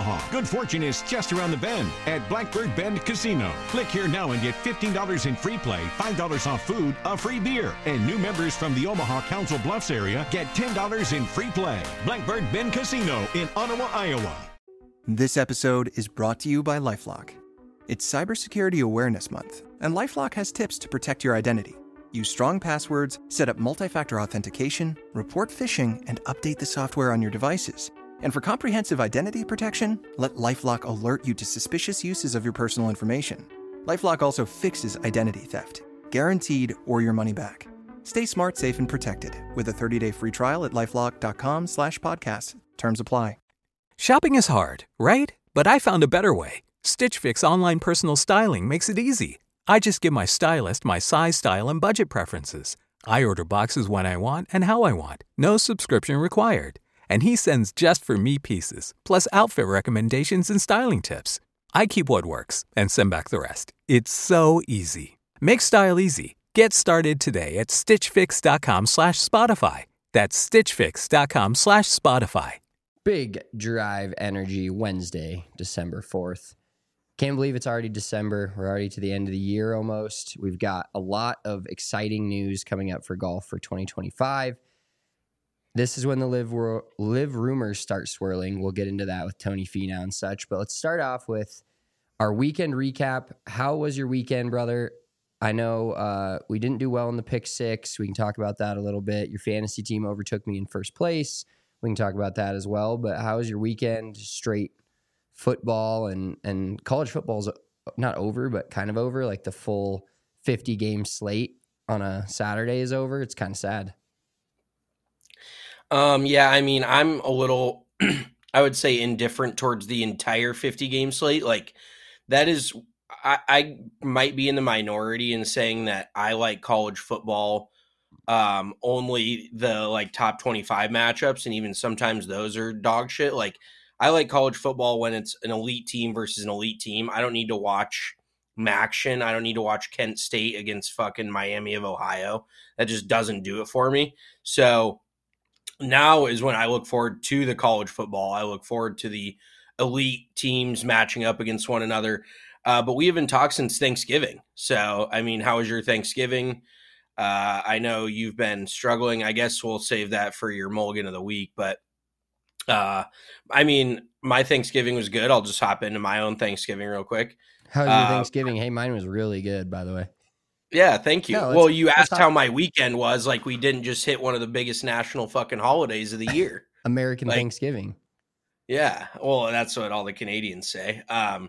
Omaha. Good fortune is just around the bend at Blackbird Bend Casino. Click here now and get $15 in free play, $5 off food, a free beer. And new members from the Omaha Council Bluffs area get $10 in free play. Blackbird Bend Casino in Ottawa, Iowa. This episode is brought to you by LifeLock. It's Cybersecurity Awareness Month, and LifeLock has tips to protect your identity. Use strong passwords, set up multi-factor authentication, report phishing, and update the software on your devices. And for comprehensive identity protection, let LifeLock alert you to suspicious uses of your personal information. LifeLock also fixes identity theft, guaranteed or your money back. Stay smart, safe, and protected with a 30-day free trial at LifeLock.com/podcast. Terms apply. Shopping is hard, right? But I found a better way. Stitch Fix online personal styling makes it easy. I just give my stylist my size, style, and budget preferences. I order boxes when I want and how I want. No subscription required. And he sends just for me pieces, plus outfit recommendations and styling tips. I keep what works and send back the rest. It's so easy. Make style easy. Get started today at stitchfix.com/Spotify. That's stitchfix.com/Spotify. Big Drive Energy Wednesday, December 4th. Can't believe it's already December. We're already to the end of the year almost. We've got a lot of exciting news coming up for golf for 2025. This is when the live rumors start swirling. We'll get into that with Tony Finau and such. But let's start off with our weekend recap. How was your weekend, brother? I know we didn't do well in the pick six. We can talk about that a little bit. Your fantasy team overtook me in first place. We can talk about that as well. But how was your weekend? Straight football and college football's not over, but kind of over. Like the full 50 game slate on a Saturday is over. It's kind of sad. Yeah, I mean, I'm a little, I would say, indifferent towards the entire 50 game slate. Like that is, I might be in the minority in saying that I like college football, only the like top 25 matchups. And even sometimes those are dog shit. Like I like college football when it's an elite team versus an elite team. I don't need to watch Maction. I don't need to watch Kent State against fucking Miami of Ohio. That just doesn't do it for me. So now is when I look forward to the college football. I look forward to the elite teams matching up against one another. But we haven't talked since Thanksgiving. So, I mean, how was your Thanksgiving? I know you've been struggling. I guess we'll save that for your mulligan of the week. But I mean, my Thanksgiving was good. I'll just hop into my own Thanksgiving real quick. How was your Thanksgiving? Hey, mine was really good, by the way. Yeah, thank you. Well, you asked how my weekend was. Like, we didn't just hit one of the biggest national fucking holidays of the year. American Thanksgiving. Yeah, well, that's what all the Canadians say.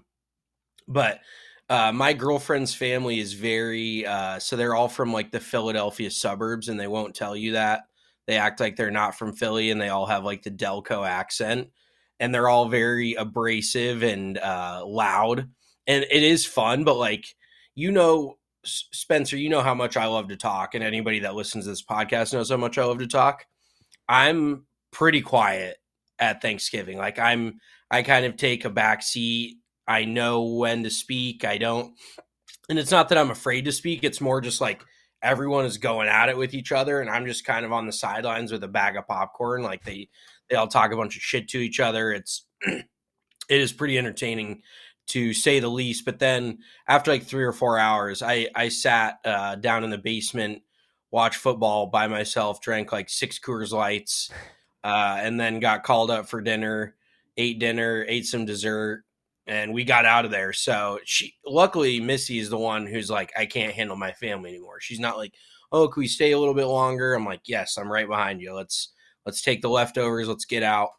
But my girlfriend's family is very, so they're all from like the Philadelphia suburbs, and they won't tell you that. They act like they're not from Philly, and they all have like the Delco accent, and they're all very abrasive and loud. And it is fun, but like, you know, Spencer, you know how much I love to talk, and anybody that listens to this podcast knows how much I love to talk. I'm pretty quiet at Thanksgiving. Like I kind of take a back seat. I know when to speak. I don't, and it's not that I'm afraid to speak. It's more just like everyone is going at it with each other, and I'm just kind of on the sidelines with a bag of popcorn. Like they all talk a bunch of shit to each other. It is pretty entertaining, to say the least. But then after like 3 or 4 hours, I sat down in the basement, watched football by myself, drank like 6 Coors Lights, and then got called up for dinner, ate some dessert, and we got out of there. So luckily Missy is the one who's like, I can't handle my family anymore. She's not like, oh, can we stay a little bit longer? I'm like, yes, I'm right behind you. Let's take the leftovers. Let's get out.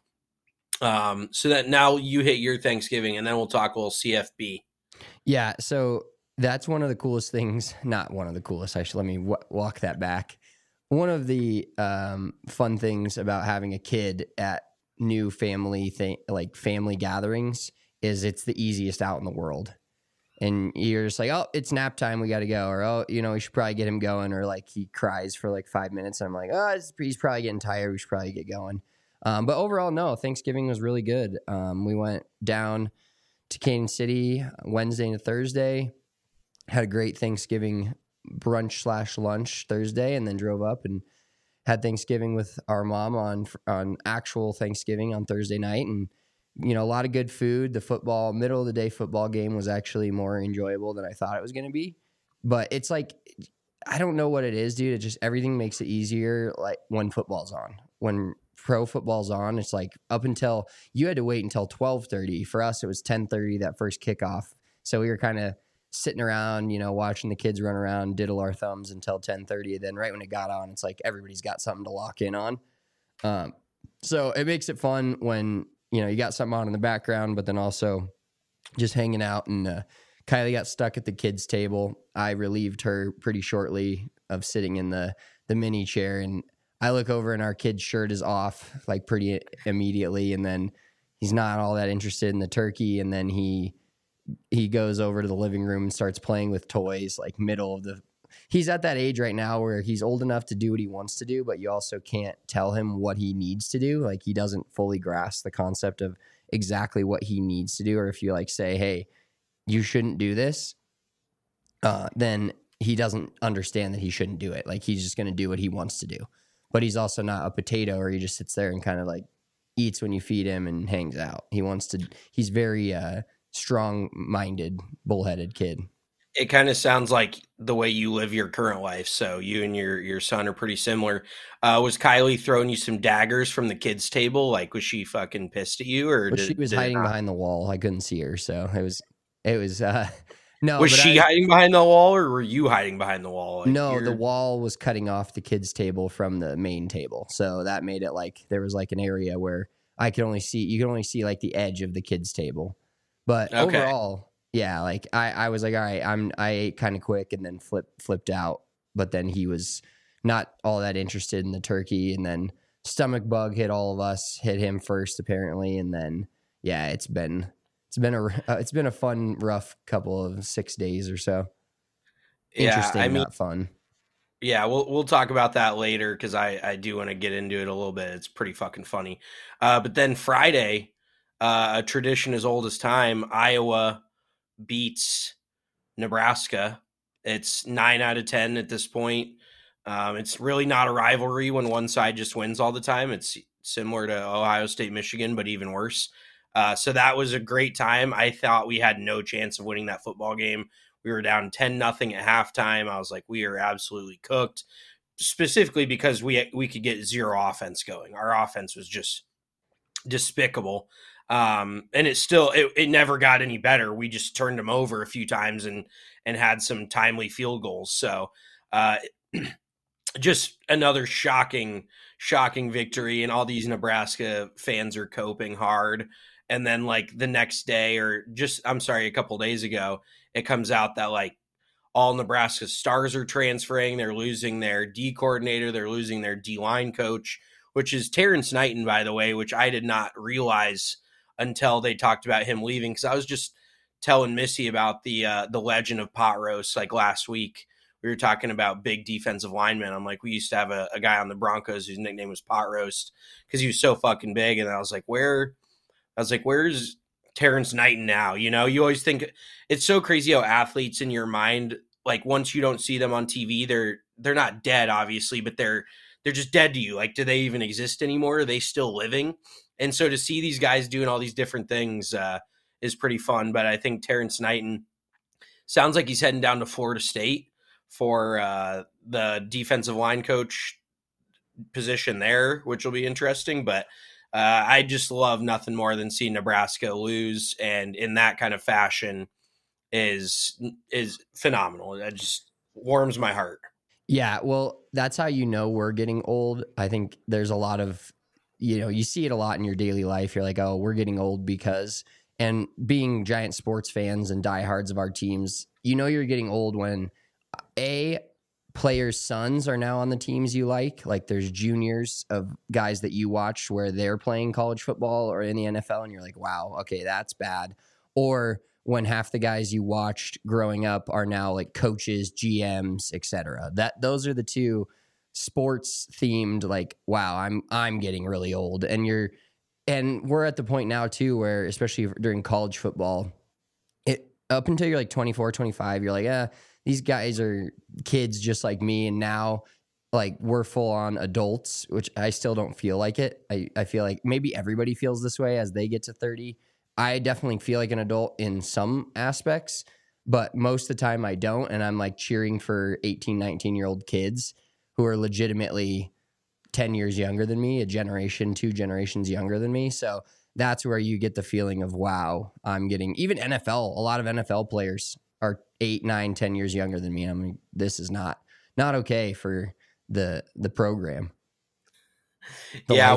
So that now you hit your Thanksgiving, and then we'll talk a little CFB. Yeah. So that's one of the coolest things. Not one of the coolest. Let me walk that back. One of the fun things about having a kid at new family family gatherings is it's the easiest out in the world. And you're just like, oh, it's nap time, we got to go. Or, oh, you know, we should probably get him going. Or like he cries for like 5 minutes. And I'm like, oh, he's probably getting tired. We should probably get going. But overall, no, Thanksgiving was really good. We went down to Kansas City Wednesday into Thursday, had a great Thanksgiving brunch/lunch Thursday, and then drove up and had Thanksgiving with our mom on actual Thanksgiving on Thursday night, and a lot of good food. The middle of the day football game was actually more enjoyable than I thought it was going to be. But it's like, I don't know what it is, dude. It just, everything makes it easier. Like when football's on, when pro football's on, it's like up until you had to wait until 12:30. For us, it was 10:30, that first kickoff. So we were kind of sitting around, watching the kids run around, diddle our thumbs until 10:30. Then right when it got on, it's like everybody's got something to lock in on. So it makes it fun when, you got something on in the background, but then also just hanging out. And Kylie got stuck at the kids' table. I relieved her pretty shortly of sitting in the mini chair. And I look over and our kid's shirt is off like pretty immediately. And then he's not all that interested in the turkey. And then he goes over to the living room and starts playing with toys, like he's at that age right now where he's old enough to do what he wants to do, but you also can't tell him what he needs to do. Like he doesn't fully grasp the concept of exactly what he needs to do. Or if you like say, hey, you shouldn't do this, then he doesn't understand that he shouldn't do it. Like he's just going to do what he wants to do. But he's also not a potato where he just sits there and kind of like eats when you feed him and hangs out. He's very strong-minded, bullheaded kid. It kind of sounds like the way you live your current life. So you and your son are pretty similar. Was Kylie throwing you some daggers from the kids' table? Like, was she fucking pissed at you, or she was hiding behind the wall? I couldn't see her, so it was. No, was she hiding behind the wall, or were you hiding behind the wall? Like no, the wall was cutting off the kids' table from the main table, so that made it like there was like an area where you could only see like the edge of the kids' table. But overall, yeah, like I was like, all right, I ate kind of quick and then flipped out. But then he was not all that interested in the turkey, and then stomach bug hit all of us, hit him first apparently, and then yeah, it's been a fun, rough couple of 6 days or so. Interesting, not fun. Yeah, we'll talk about that later because I do want to get into it a little bit. It's pretty fucking funny. But then Friday, a tradition as old as time, Iowa beats Nebraska. It's 9 out of 10 at this point. It's really not a rivalry when one side just wins all the time. It's similar to Ohio State, Michigan, but even worse. So that was a great time. I thought we had no chance of winning that football game. We were down 10-0 at halftime. I was like, we are absolutely cooked, specifically because we could get zero offense going. Our offense was just despicable. And it never got any better. We just turned them over a few times and had some timely field goals. So just another shocking victory, and all these Nebraska fans are coping hard. And then like the next day, a couple days ago, it comes out that like all Nebraska stars are transferring. They're losing their D coordinator. They're losing their D-line coach, which is Terrence Knighton, by the way, which I did not realize until they talked about him leaving. Because I was just telling Missy about the legend of Pot Roast like last week. We were talking about big defensive linemen. I'm like, we used to have a guy on the Broncos whose nickname was Pot Roast because he was so fucking big. And I was like, where's Terrence Knighton now? You know, you always think it's so crazy how athletes in your mind, like once you don't see them on TV, they're not dead, obviously, but they're just dead to you. Like, do they even exist anymore? Are they still living? And so to see these guys doing all these different things is pretty fun. But I think Terrence Knighton sounds like he's heading down to Florida State for the defensive line coach position there, which will be interesting. But I just love nothing more than seeing Nebraska lose, and in that kind of fashion is phenomenal. That just warms my heart. Yeah, well, that's how you know we're getting old. I think there's a lot of, you see it a lot in your daily life. You're like, oh, we're getting old because, and being giant sports fans and diehards of our teams, you're getting old when players' sons are now on the teams you like. Like there's juniors of guys that you watch where they're playing college football or in the NFL, and you're like, wow, okay, that's bad. Or when half the guys you watched growing up are now like coaches, GMs, etc. Those are the two sports themed, like, wow, I'm getting really old. And we're at the point now too where, especially during college football, up until you're like 24, 25, you're like, these guys are kids just like me. And now like we're full on adults, which I still don't feel like it. I feel like maybe everybody feels this way as they get to 30. I definitely feel like an adult in some aspects, but most of the time I don't. And I'm like cheering for 18, 19-year-old kids who are legitimately 10 years younger than me, a generation, 2 generations younger than me. So that's where you get the feeling of, wow, I'm getting even NFL. A lot of NFL players are 8, 9, 10 years younger than me. I mean, this is not okay for the program. Yeah,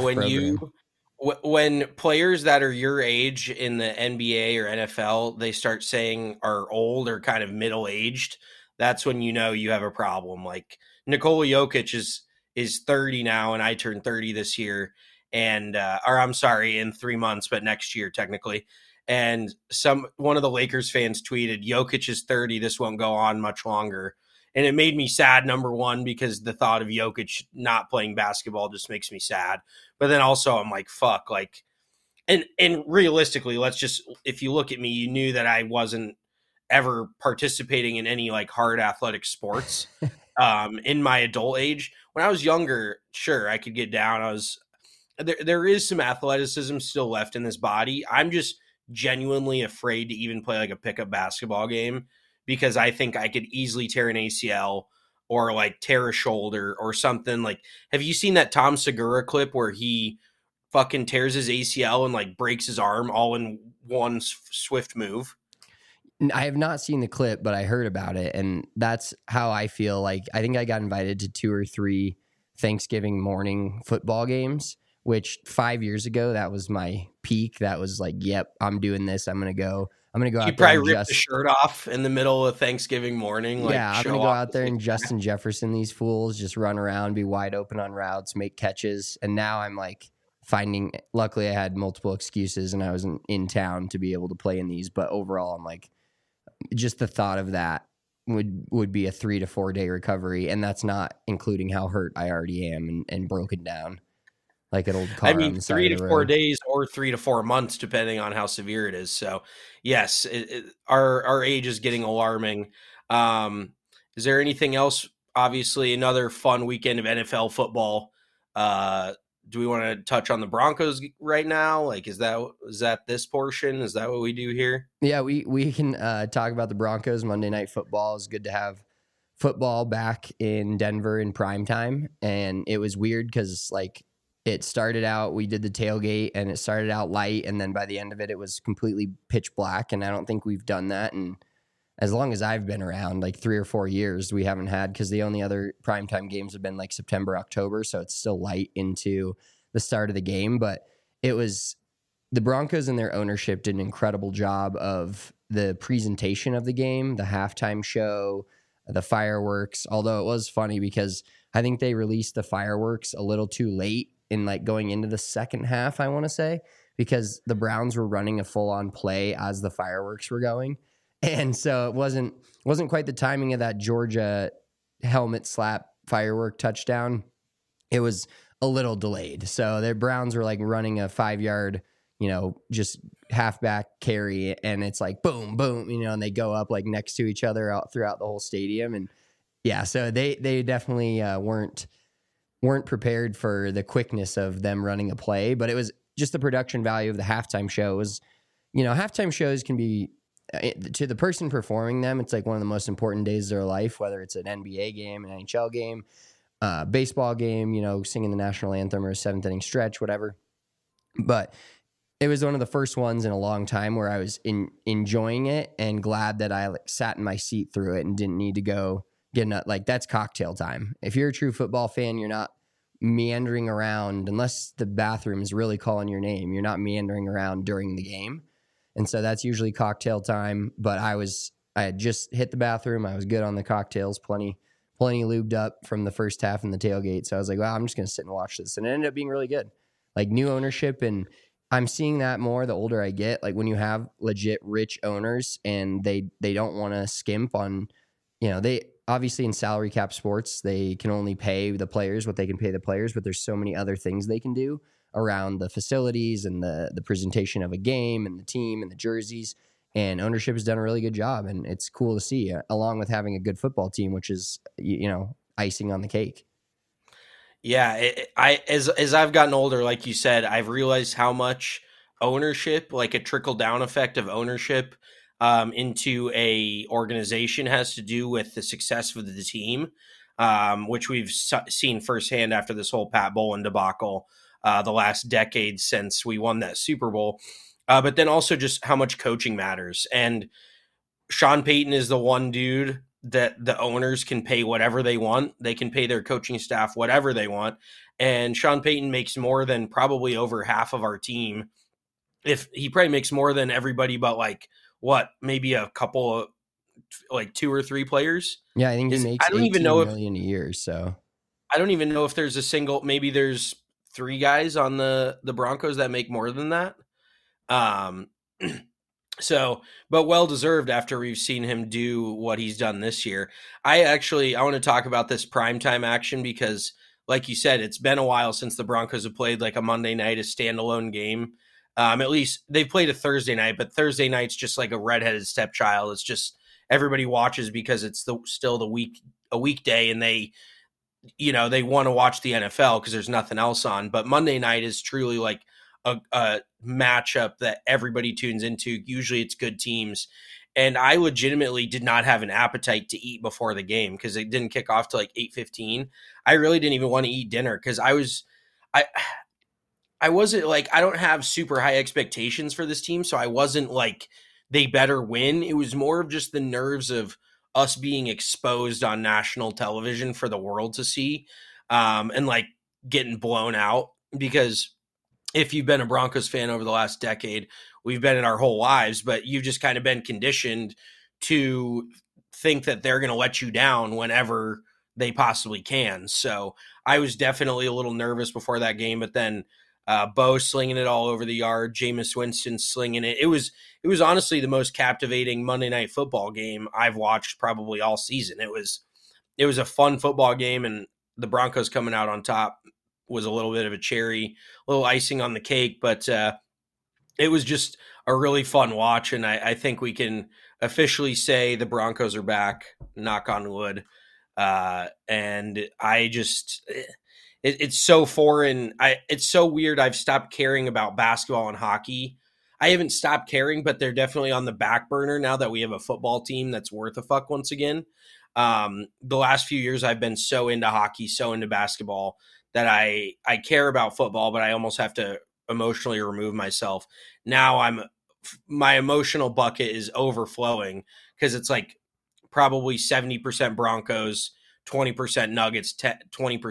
when players that are your age in the NBA or NFL, they start saying are old or kind of middle-aged, that's when you know you have a problem. Like Nikola Jokic is 30 now, and I turned 30 this year, and or I'm sorry, in 3 months, but next year technically. And one of the Lakers fans tweeted, "Jokic is 30. This won't go on much longer." And it made me sad, number one, because the thought of Jokic not playing basketball just makes me sad. But then also I'm like, fuck, like, and realistically, if you look at me, you knew that I wasn't ever participating in any like hard athletic sports in my adult age. When I was younger, sure, I could get down. There is some athleticism still left in this body. I'm just genuinely afraid to even play like a pickup basketball game, because I think I could easily tear an ACL or like tear a shoulder or something. Like, have you seen that Tom Segura clip where he fucking tears his ACL and like breaks his arm all in one swift move? I have not seen the clip, but I heard about it. And that's how I feel. Like, I think I got invited to 2 or 3 Thanksgiving morning football games, which 5 years ago, that was my peak. That was like, yep, I'm doing this. I'm going to go out there. You probably ripped the shirt off in the middle of Thanksgiving morning. Yeah, I'm going to go out there and Justin Jefferson these fools, just run around, be wide open on routes, make catches. And now I'm like luckily I had multiple excuses and I was in town to be able to play in these. But overall, I'm like, just the thought of that would be a 3 to 4 day recovery. And that's not including how hurt I already am and broken down. Like an old car. I mean, 3 to 4 days or 3 to 4 months, depending on how severe it is. So, yes, our age is getting alarming. Is there anything else? Obviously, another fun weekend of NFL football. Do we want to touch on the Broncos right now? Like, is that this portion? Is that what we do here? Yeah, we can talk about the Broncos. Monday Night Football. It's good to have football back in Denver in prime time, and it was weird because like. It started out, we did the tailgate and it started out light. And then by the end of it, it was completely pitch black. And I don't think we've done that. And as long as I've been around, like 3 or 4 years, we haven't had, because the only other primetime games have been like September, October. So it's still light into the start of the game. But it was the Broncos and their ownership did an incredible job of the presentation of the game, the halftime show, the fireworks. Although it was funny because I think they released the fireworks a little too late. In like going into the second half, I want to say, because the Browns were running a full-on play as the fireworks were going. And so it wasn't quite the timing of that Georgia helmet slap firework touchdown. It was a little delayed. So the Browns were like running a 5-yard, just halfback carry, and it's like boom, boom, and they go up like next to each other out throughout the whole stadium. And yeah, so they definitely weren't prepared for the quickness of them running a play, but it was just the production value of the halftime show was, halftime shows can be, to the person performing them, it's like one of the most important days of their life, whether it's an NBA game, an NHL game, baseball game, singing the national anthem or a 7th inning stretch, whatever. But it was one of the first ones in a long time where I was enjoying it and glad that I sat in my seat through it and didn't need to go that's cocktail time. If you're a true football fan, you're not meandering around unless the bathroom is really calling your name. You're not meandering around during the game. And so that's usually cocktail time. But I had just hit the bathroom. I was good on the cocktails, plenty lubed up from the first half in the tailgate. So I was like, wow, I'm just going to sit and watch this. And it ended up being really good. Like new ownership. And I'm seeing that more the older I get. Like when you have legit rich owners and they don't want to skimp on, they obviously in salary cap sports, they can only pay the players what they can pay the players, but there's so many other things they can do around the facilities and the presentation of a game and the team and the jerseys. And ownership has done a really good job, and it's cool to see, along with having a good football team, which is, icing on the cake. Yeah, as I've gotten older, like you said, I've realized how much ownership, like a trickle down effect of ownership, into a organization has to do with the success of the team, which we've seen firsthand after this whole Pat Bowlen debacle, the last decade since we won that Super Bowl. But then also just how much coaching matters. And Sean Payton is the one dude that the owners can pay whatever they want. They can pay their coaching staff whatever they want. And Sean Payton makes more than probably over half of our team. If he probably makes more than everybody, but like what, maybe a couple of like 2 or 3 players. Yeah, I think he makes I don't even know million a year. So I don't even know if there's a single, maybe there's 3 guys on the Broncos that make more than that. So, but well-deserved after we've seen him do what he's done this year. I want to talk about this primetime action because, like you said, it's been a while since the Broncos have played like a Monday night, a standalone game. At least they've played a Thursday night, but Thursday night's just like a redheaded stepchild. It's just everybody watches because it's still a weekday, and they want to watch the NFL because there's nothing else on. But Monday night is truly like a matchup that everybody tunes into. Usually it's good teams. And I legitimately did not have an appetite to eat before the game because it didn't kick off till like 8:15. I really didn't even want to eat dinner because I wasn't like, I don't have super high expectations for this team. So I wasn't like, they better win. It was more of just the nerves of us being exposed on national television for the world to see, and like getting blown out. Because if you've been a Broncos fan over the last decade, we've been in our whole lives, but you've just kind of been conditioned to think that they're going to let you down whenever they possibly can. So I was definitely a little nervous before that game, but then Bo slinging it all over the yard, Jameis Winston slinging it. It was honestly the most captivating Monday Night Football game I've watched probably all season. It was a fun football game, and the Broncos coming out on top was a little bit of a cherry, a little icing on the cake, but it was just a really fun watch. And I think we can officially say the Broncos are back, knock on wood. And I just, it's so foreign. It's so weird. I've stopped caring about basketball and hockey. I haven't stopped caring, but they're definitely on the back burner now that we have a football team that's worth a fuck once again. The last few years I've been so into hockey, so into basketball, that I care about football, but I almost have to emotionally remove myself. Now my emotional bucket is overflowing because it's like probably 70% Broncos, 20% Nuggets, 20%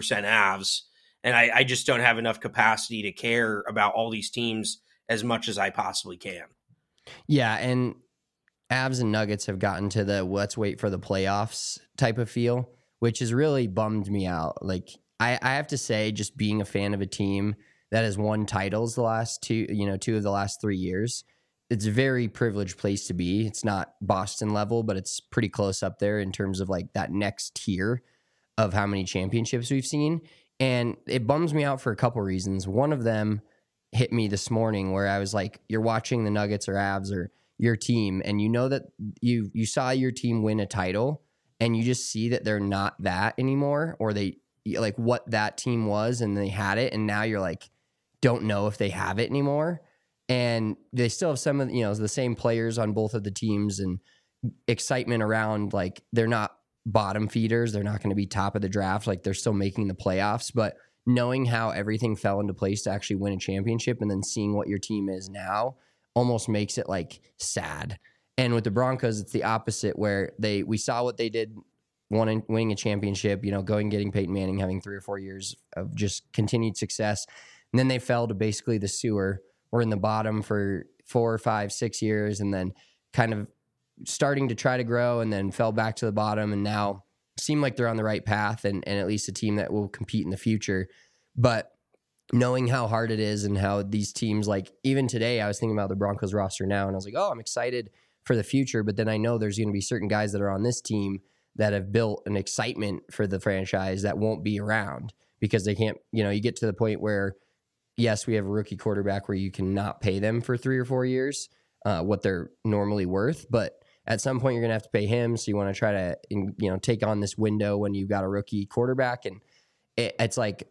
Avs. And I just don't have enough capacity to care about all these teams as much as I possibly can. Yeah, and Avs and Nuggets have gotten to the let's wait for the playoffs type of feel, which has really bummed me out. Like, I have to say, just being a fan of a team that has won titles the last two of the last 3 years, it's a very privileged place to be. It's not Boston level, but it's pretty close up there in terms of like that next tier of how many championships we've seen. And it bums me out for a couple reasons. One of them hit me this morning where I was like, you're watching the Nuggets or Avs or your team, and you know that you saw your team win a title, and you just see that they're not that anymore, or they like what that team was and they had it, and now you're like, don't know if they have it anymore. And they still have some of the same players on both of the teams, and excitement around like they're not bottom feeders, they're not going to be top of the draft, like they're still making the playoffs. But knowing how everything fell into place to actually win a championship and then seeing what your team is now almost makes it like sad. And with the Broncos, it's the opposite, where we saw what they did winning a championship, going, getting Peyton Manning, having 3 or 4 years of just continued success. And then they fell to basically the sewer. We're in the bottom for 4 or 5, 6 years, and then kind of starting to try to grow, and then fell back to the bottom, and now seem like they're on the right path and at least a team that will compete in the future. But knowing how hard it is and how these teams, like even today, I was thinking about the Broncos roster now, and I was like, oh, I'm excited for the future. But then I know there's going to be certain guys that are on this team that have built an excitement for the franchise that won't be around because they can't, you get to the point where, yes, we have a rookie quarterback where you cannot pay them for 3 or 4 years what they're normally worth. But at some point, you're going to have to pay him. So you want to try to, take on this window when you've got a rookie quarterback. And it's like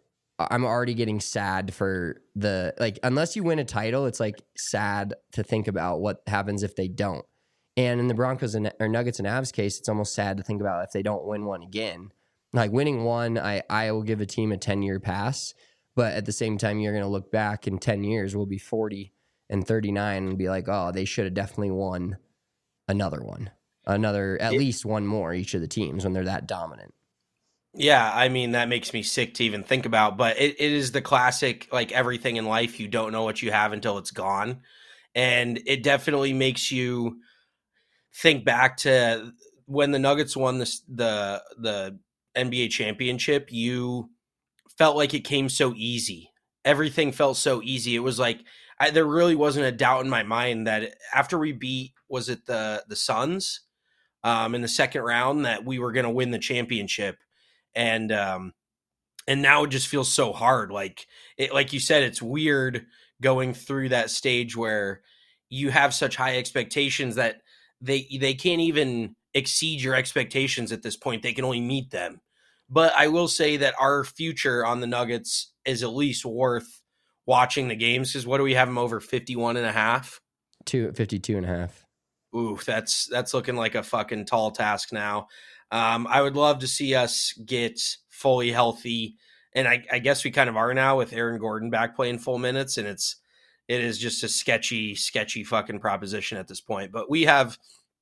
I'm already getting sad for unless you win a title, it's like sad to think about what happens if they don't. And in the Broncos or Nuggets and Avs case, it's almost sad to think about if they don't win one again. Like winning one, I will give a team a 10-year pass. But at the same time, you're going to look back in 10 years, we'll be 40 and 39 and be like, oh, they should have definitely won at least one more, each of the teams, when they're that dominant. Yeah, I mean, that makes me sick to even think about, but it is the classic, like everything in life, you don't know what you have until it's gone. And it definitely makes you think back to when the Nuggets won the NBA championship. You felt like it came so easy. Everything felt so easy. It was like there really wasn't a doubt in my mind that after we beat, was it the Suns in the second round, that we were going to win the championship. And now it just feels so hard. Like you said, it's weird going through that stage where you have such high expectations that they can't even exceed your expectations at this point. They can only meet them. But I will say that our future on the Nuggets is at least worth watching the games, because what do we have them over 51.5? 52.5. Ooh, that's looking like a fucking tall task now. I would love to see us get fully healthy, and I guess we kind of are now with Aaron Gordon back playing full minutes, and it is just a sketchy fucking proposition at this point. But we have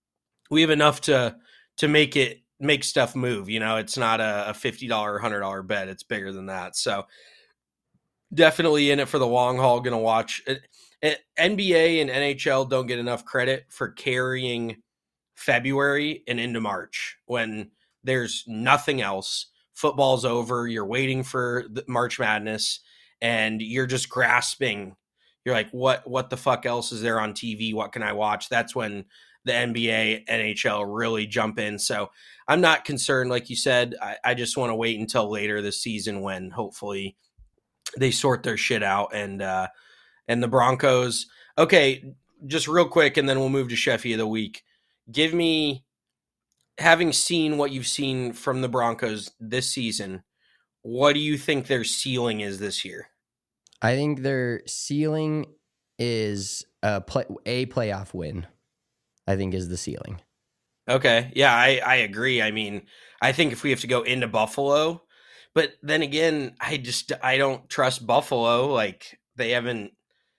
enough to make stuff move. You know, it's not a $50 or $100 bet; it's bigger than that. So definitely in it for the long haul. Going to watch it. NBA and NHL don't get enough credit for carrying February and into March when there's nothing else. Football's over. You're waiting for the March Madness and you're just grasping. You're like, what the fuck else is there on TV? What can I watch? That's when the NBA, NHL really jump in. So I'm not concerned. Like you said, I just want to wait until later this season when hopefully they sort their shit out. And the Broncos. Okay, just real quick, and then we'll move to Sheffy of the week. Give me, having seen what you've seen from the Broncos this season, what do you think their ceiling is this year? I think their ceiling is a playoff win, I think, is the ceiling. Okay. Yeah, I agree. I mean, I think if we have to go into Buffalo, but then again, I don't trust Buffalo. Like, they haven't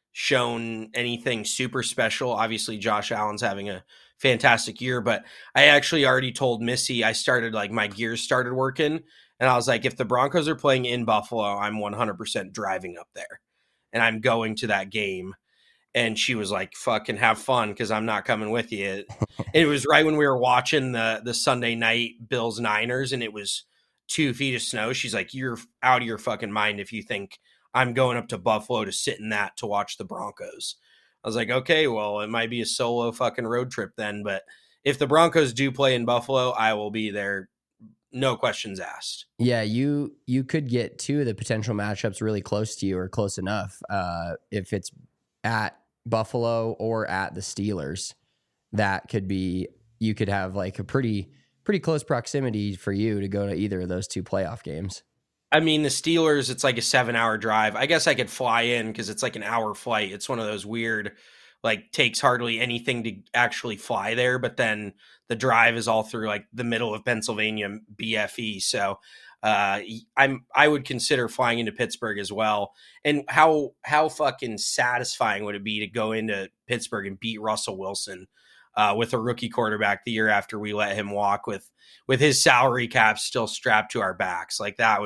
shown anything super special. Obviously, Josh Allen's having a fantastic year, but I actually already told Missy, I started, like, my gears started working, and I was like, if the Broncos are playing in Buffalo, I'm 100% driving up there, and I'm going to that game. And she was like, fucking have fun, because I'm not coming with you. It was right when we were watching the Sunday night Bills-Niners, and it was 2 feet of snow. She's like, you're out of your fucking mind if you think I'm going up to Buffalo to sit in that to watch the Broncos. I was like, okay, well, it might be a solo fucking road trip then. But if the Broncos do play in Buffalo, I will be there. No questions asked. Yeah, you could get two of the potential matchups really close to you, or close enough. If it's at Buffalo or at the Steelers, that could be, you could have like a pretty close proximity for you to go to either of those two playoff games. I mean, the Steelers, it's like a 7-hour drive. I guess I could fly in because it's like an hour flight. It's one of those weird, like, takes hardly anything to actually fly there, but then the drive is all through like the middle of Pennsylvania BFE. So I would consider flying into Pittsburgh as well. And how fucking satisfying would it be to go into Pittsburgh and beat Russell Wilson with a rookie quarterback the year after we let him walk with his salary cap still strapped to our backs? Like, that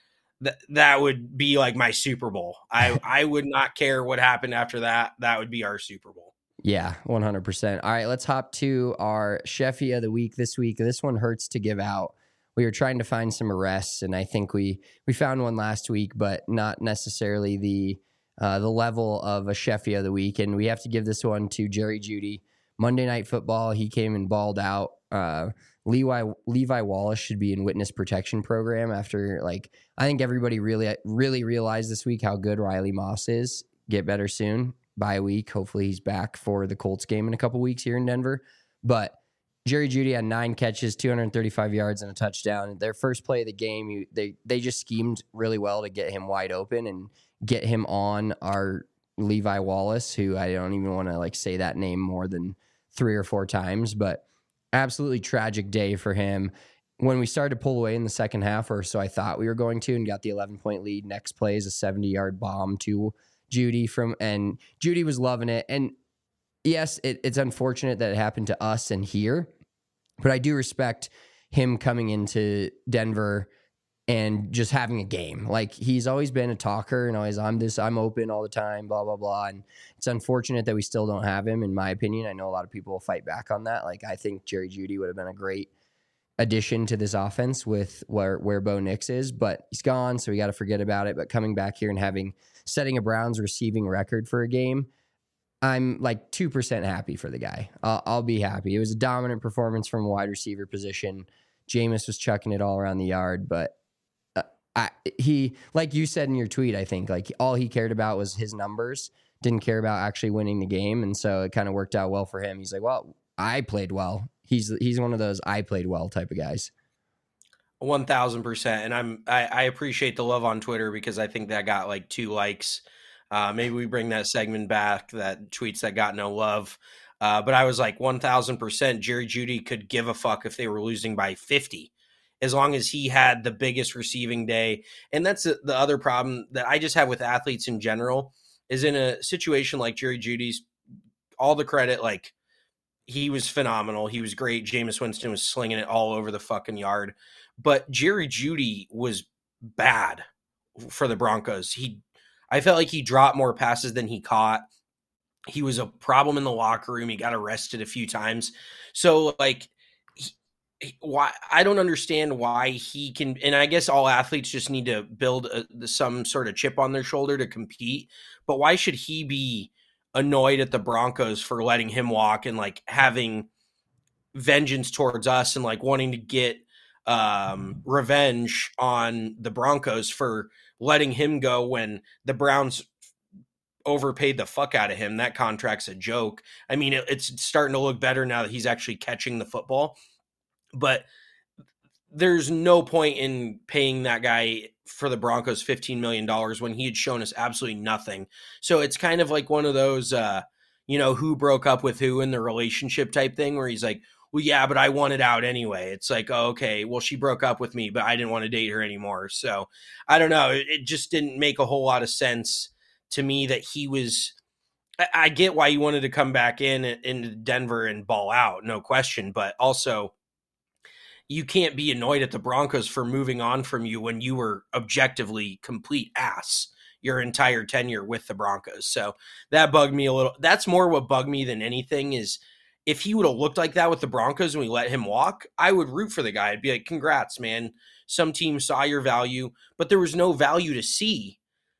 would be like my Super Bowl. I would not care what happened after that. That would be our Super Bowl. Yeah, 100%. All right, let's hop to our Sheffy of the week this week. This one hurts to give out. We were trying to find some arrests, and I think we found one last week, but not necessarily the level of a Sheffy of the week. And we have to give this one to Jerry Jeudy. Monday Night Football, he came and balled out. Levi Wallace should be in witness protection program after, like, I think everybody really realized this week how good Riley Moss is. Get better soon. Bye week. Hopefully he's back for the Colts game in a couple weeks here in Denver. But Jerry Jeudy had 9 catches, 235 yards, and a touchdown. Their first play of the game, they just schemed really well to get him wide open and get him on our Levi Wallace, who I don't even want to like say that name more than 3 or 4 times, but absolutely tragic day for him. When we started to pull away in the second half, or so I thought we were going to, and got the 11-point lead, next play is a 70-yard bomb to Jeudy and Jeudy was loving it. And yes, it's unfortunate that it happened to us and here, but I do respect him coming into Denver and just having a game. Like, he's always been a talker and always, I'm open all the time, blah, blah, blah. And it's unfortunate that we still don't have him, in my opinion. I know a lot of people will fight back on that. Like, I think Jerry Jeudy would have been a great addition to this offense with where Bo Nix is, but he's gone, so we got to forget about it. But coming back here and setting a Browns receiving record for a game, I'm like 2% happy for the guy. I'll be happy. It was a dominant performance from a wide receiver position. Jameis was chucking it all around the yard, but he, like you said in your tweet, I think like all he cared about was his numbers, didn't care about actually winning the game, and so it kind of worked out well for him. He's like, well, I played well. He's one of those I played well type of guys. 1,000%. And I appreciate the love on Twitter because I think that got like 2 likes. Maybe we bring that segment back, that tweets that got no love. But I was like 1,000%. Jerry Jeudy could give a fuck if they were losing by 50, as long as he had the biggest receiving day. And that's the other problem that I just have with athletes in general, is in a situation like Jerry Jeudy's, all the credit, like, he was phenomenal. He was great. Jameis Winston was slinging it all over the fucking yard. But Jerry Jeudy was bad for the Broncos. I felt like he dropped more passes than he caught. He was a problem in the locker room. He got arrested a few times. So, like, why I don't understand why he can. And I guess all athletes just need to build some sort of chip on their shoulder to compete. But why should he be annoyed at the Broncos for letting him walk and like having vengeance towards us and like wanting to get revenge on the Broncos for letting him go when the Browns overpaid the fuck out of him? That contract's a joke. I mean, it's starting to look better now that he's actually catching the football, but there's no point in paying that guy for the Broncos $15 million when he had shown us absolutely nothing. So it's kind of like one of those, who broke up with who in the relationship type thing where he's like, well, yeah, but I wanted out anyway. It's like, oh, okay, well, she broke up with me, but I didn't want to date her anymore. So I don't know. It just didn't make a whole lot of sense to me that he was. I get why he wanted to come back into Denver and ball out, no question. But also, you can't be annoyed at the Broncos for moving on from you when you were objectively complete ass your entire tenure with the Broncos. So that bugged me a little. That's more what bugged me than anything is if he would have looked like that with the Broncos and we let him walk, I would root for the guy. I'd be like, congrats, man. Some team saw your value, but there was no value to see,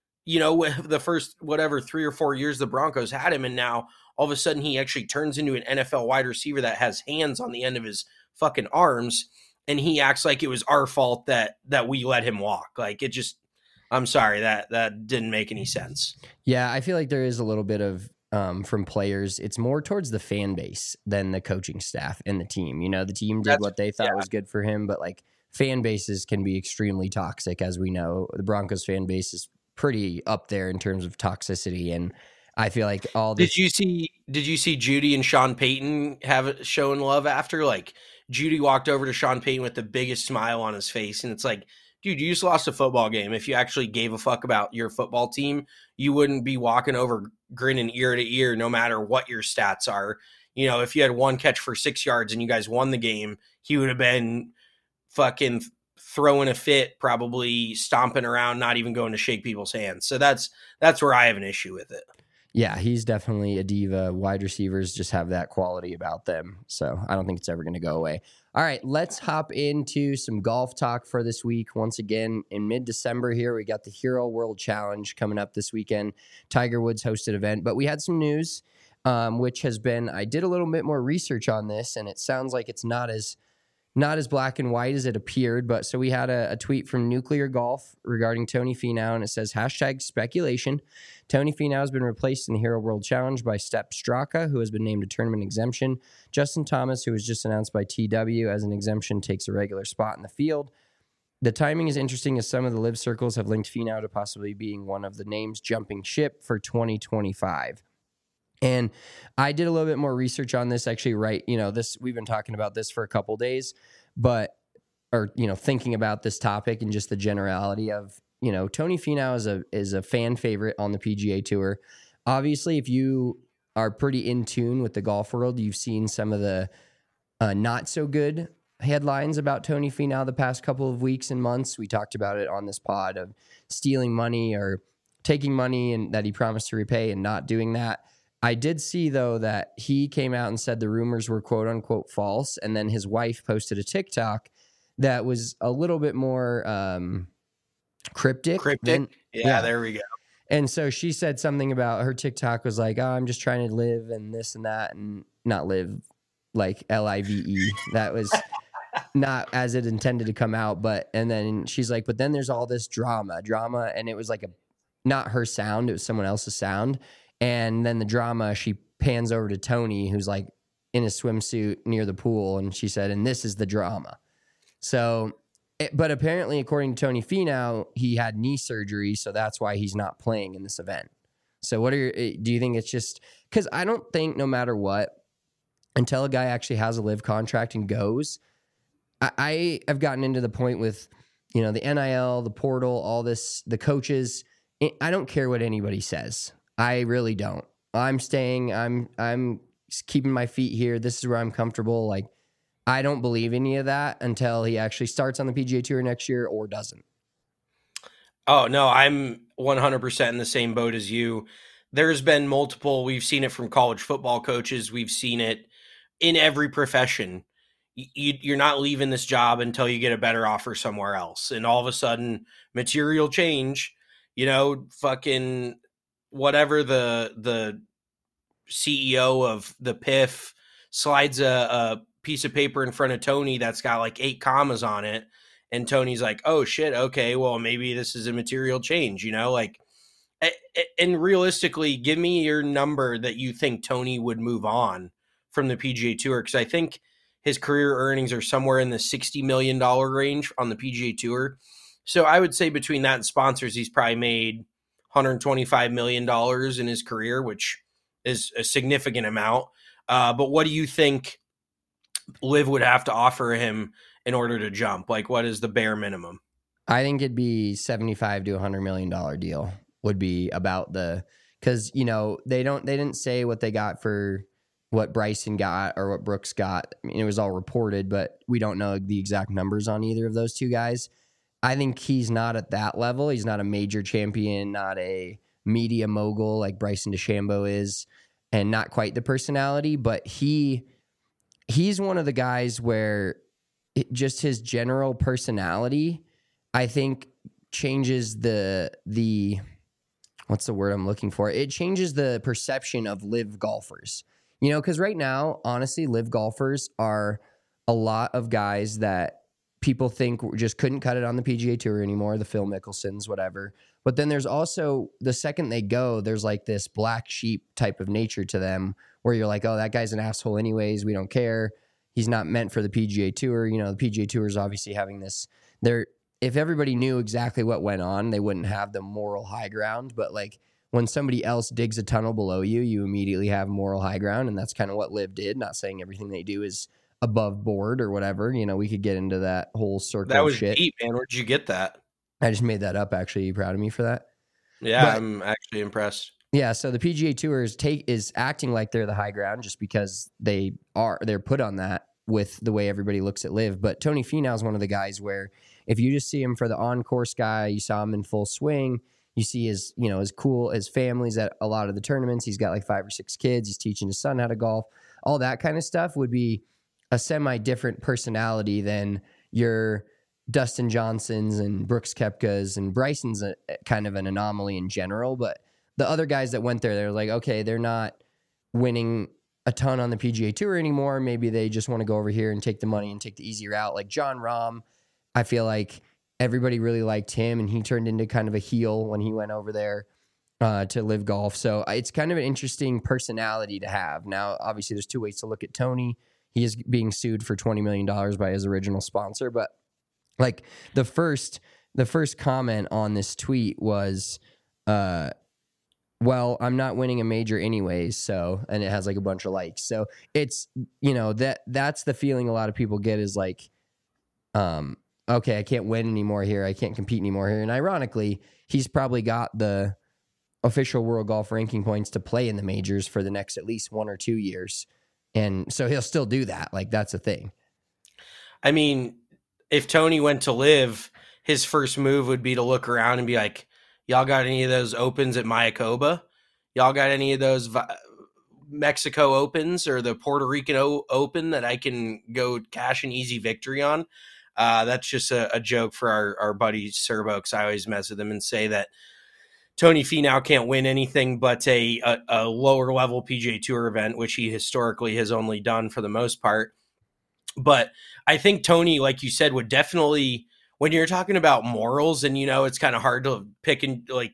the first, 3 or 4 years the Broncos had him. And now all of a sudden he actually turns into an NFL wide receiver that has hands on the end of his fucking arms. And he acts like it was our fault that we let him walk. Like, it just, I'm sorry, that didn't make any sense. Yeah, I feel like there is a little bit of, from players, it's more towards the fan base than the coaching staff and the team. The team did what they thought was good for him, but like fan bases can be extremely toxic, as we know. The Broncos fan base is pretty up there in terms of toxicity, and I feel like all this. Did you see Jeudy and Sean Payton showing love after? Like, Jeudy walked over to Sean Payton with the biggest smile on his face, and it's like, dude, you just lost a football game. If you actually gave a fuck about your football team, you wouldn't be walking over grinning ear to ear no matter what your stats are. If you had 1 catch for 6 yards and you guys won the game, he would have been fucking throwing a fit, probably stomping around, not even going to shake people's hands. So that's where I have an issue with it. Yeah, he's definitely a diva. Wide receivers just have that quality about them. So I don't think it's ever going to go away. All right, let's hop into some golf talk for this week. Once again, in mid-December here, we got the Hero World Challenge coming up this weekend. Tiger Woods hosted event, but we had some news, which has been, I did a little bit more research on this, and it sounds like it's not as not as black and white as it appeared. But so we had a tweet from Nuclear Golf regarding Tony Finau, and it says, #speculation. Tony Finau has been replaced in the Hero World Challenge by Step Straka, who has been named a tournament exemption. Justin Thomas, who was just announced by TW as an exemption, takes a regular spot in the field. The timing is interesting as some of the live circles have linked Finau to possibly being one of the names jumping ship for 2025. And I did a little bit more research on this actually, right? We've been talking about this for a couple days, thinking about this topic and just the generality of, Tony Finau is a fan favorite on the PGA Tour. Obviously, if you are pretty in tune with the golf world, you've seen some of the not so good headlines about Tony Finau the past couple of weeks and months. We talked about it on this pod of stealing money or taking money and that he promised to repay and not doing that. I did see, though, that he came out and said the rumors were quote unquote false. And then his wife posted a TikTok that was a little bit more cryptic. Yeah, there we go. And so she said something about her TikTok was like, I'm just trying to live and this and that, and not live like LIVE. That was not as it intended to come out. And then she's like, but then there's all this drama. And it was like not her sound. It was someone else's sound. And then the drama, she pans over to Tony, who's like in a swimsuit near the pool. And she said, and this is the drama. So, but apparently, according to Tony Finau, he had knee surgery. So that's why he's not playing in this event. So do you think it's just, because I don't think no matter what, until a guy actually has a live contract and goes, I have gotten into the point with, the NIL, the portal, all this, the coaches. I don't care what anybody says. I really don't. I'm staying. I'm keeping my feet here. This is where I'm comfortable. Like, I don't believe any of that until he actually starts on the PGA Tour next year or doesn't. Oh, no, I'm 100% in the same boat as you. There's been multiple. We've seen it from college football coaches. We've seen it in every profession. You're not leaving this job until you get a better offer somewhere else. And all of a sudden, material change, fucking whatever the CEO of the PIF slides a piece of paper in front of Tony that's got like 8 commas on it. And Tony's like, oh shit. Okay. Well, maybe this is a material change, and realistically, give me your number that you think Tony would move on from the PGA Tour. Cause I think his career earnings are somewhere in the $60 million range on the PGA Tour. So I would say between that and sponsors, he's probably made $125 million in his career, which is a significant amount. But what do you think Liv would have to offer him in order to jump? Like, what is the bare minimum? I think it'd be $75 to $100 million deal would be about because they didn't say what they got for what Bryson got or what Brooks got. I mean, it was all reported, but we don't know the exact numbers on either of those two guys. I think he's not at that level. He's not a major champion, not a media mogul like Bryson DeChambeau is, and not quite the personality, but he's one of the guys where just his general personality, I think, changes the what's the word I'm looking for? It changes the perception of live golfers. Because right now, honestly, live golfers are a lot of guys that people think just couldn't cut it on the PGA Tour anymore, the Phil Mickelsons, whatever. But then there's also, the second they go, there's like this black sheep type of nature to them where you're like, oh, that guy's an asshole anyways. We don't care. He's not meant for the PGA Tour. The PGA Tour is obviously having this. If everybody knew exactly what went on, they wouldn't have the moral high ground. But like when somebody else digs a tunnel below you, you immediately have moral high ground. And that's kind of what Liv did. Not saying everything they do is above board or whatever. We could get into that whole circle that was of shit. Deep, man. Where'd you get that? I just made that up, actually. You proud of me for that? Yeah, I'm actually impressed. Yeah, so the PGA Tour is acting like they're the high ground just because they're put on that with the way everybody looks at Liv. But Tony Finau is one of the guys where if you just see him for the on-course guy, you saw him in full swing, you see his family's at a lot of the tournaments. He's got like 5 or 6 kids. He's teaching his son how to golf. All that kind of stuff would be a semi-different personality than your Dustin Johnsons and Brooks Koepkas, and Bryson's kind of an anomaly in general. But the other guys that went there, they're like, okay, they're not winning a ton on the PGA Tour anymore. Maybe they just want to go over here and take the money and take the easy route. Like Jon Rahm, I feel like everybody really liked him, and he turned into kind of a heel when he went over there to live golf. So it's kind of an interesting personality to have. Now, obviously, there's two ways to look at Tony. He is being sued for $20 million by his original sponsor. But like the first comment on this tweet was, well, I'm not winning a major anyways. So, and it has like a bunch of likes. So it's, that's the feeling a lot of people get is like, okay, I can't win anymore here. I can't compete anymore here. And ironically, he's probably got the official world golf ranking points to play in the majors for the next at least 1 or 2 years. And so he'll still do that. Like, that's a thing. I mean, if Tony went to live, his first move would be to look around and be like, y'all got any of those opens at Mayakoba? Y'all got any of those Mexico Opens or the Puerto Rican Open that I can go cash an easy victory on? That's just a joke for our buddy Serbo, because I always mess with him and say that Tony Finau can't win anything but a lower level PGA Tour event, which he historically has only done for the most part. But I think Tony, like you said, would definitely, when you're talking about morals, and it's kind of hard to pick and like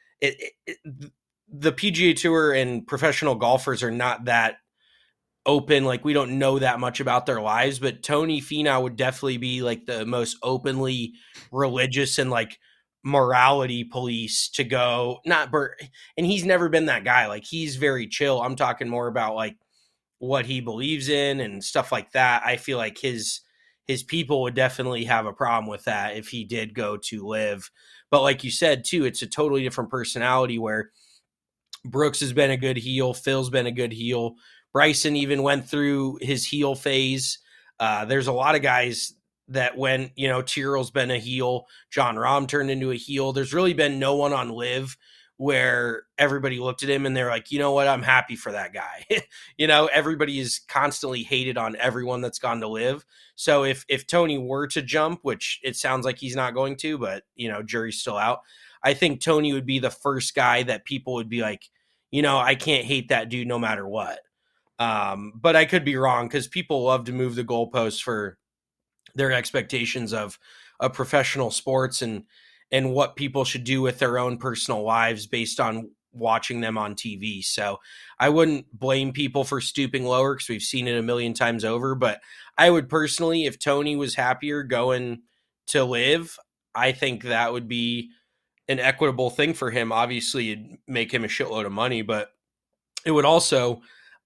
the PGA Tour and professional golfers are not that open. Like, we don't know that much about their lives, but Tony Finau would definitely be like the most openly religious and like morality police to go, and he's never been that guy. Like, he's very chill. I'm talking more about like what he believes in and stuff like that. I feel like his people would definitely have a problem with that if he did go to live. But like you said too, it's a totally different personality where Brooks has been a good heel. Phil's been a good heel. Bryson even went through his heel phase. There's a lot of guys that when, Tyrrell's been a heel, Jon Rahm turned into a heel. There's really been no one on live where everybody looked at him and they're like, you know what, I'm happy for that guy. Everybody is constantly hated on everyone that's gone to live. So if Tony were to jump, which it sounds like he's not going to, but jury's still out, I think Tony would be the first guy that people would be like, I can't hate that dude no matter what. But I could be wrong, because people love to move the goalposts for their expectations of professional sports and what people should do with their own personal lives based on watching them on TV. So I wouldn't blame people for stooping lower, because we've seen it a million times over. But I would personally, if Tony was happier going to live, I think that would be an equitable thing for him. Obviously, it'd make him a shitload of money, but it would also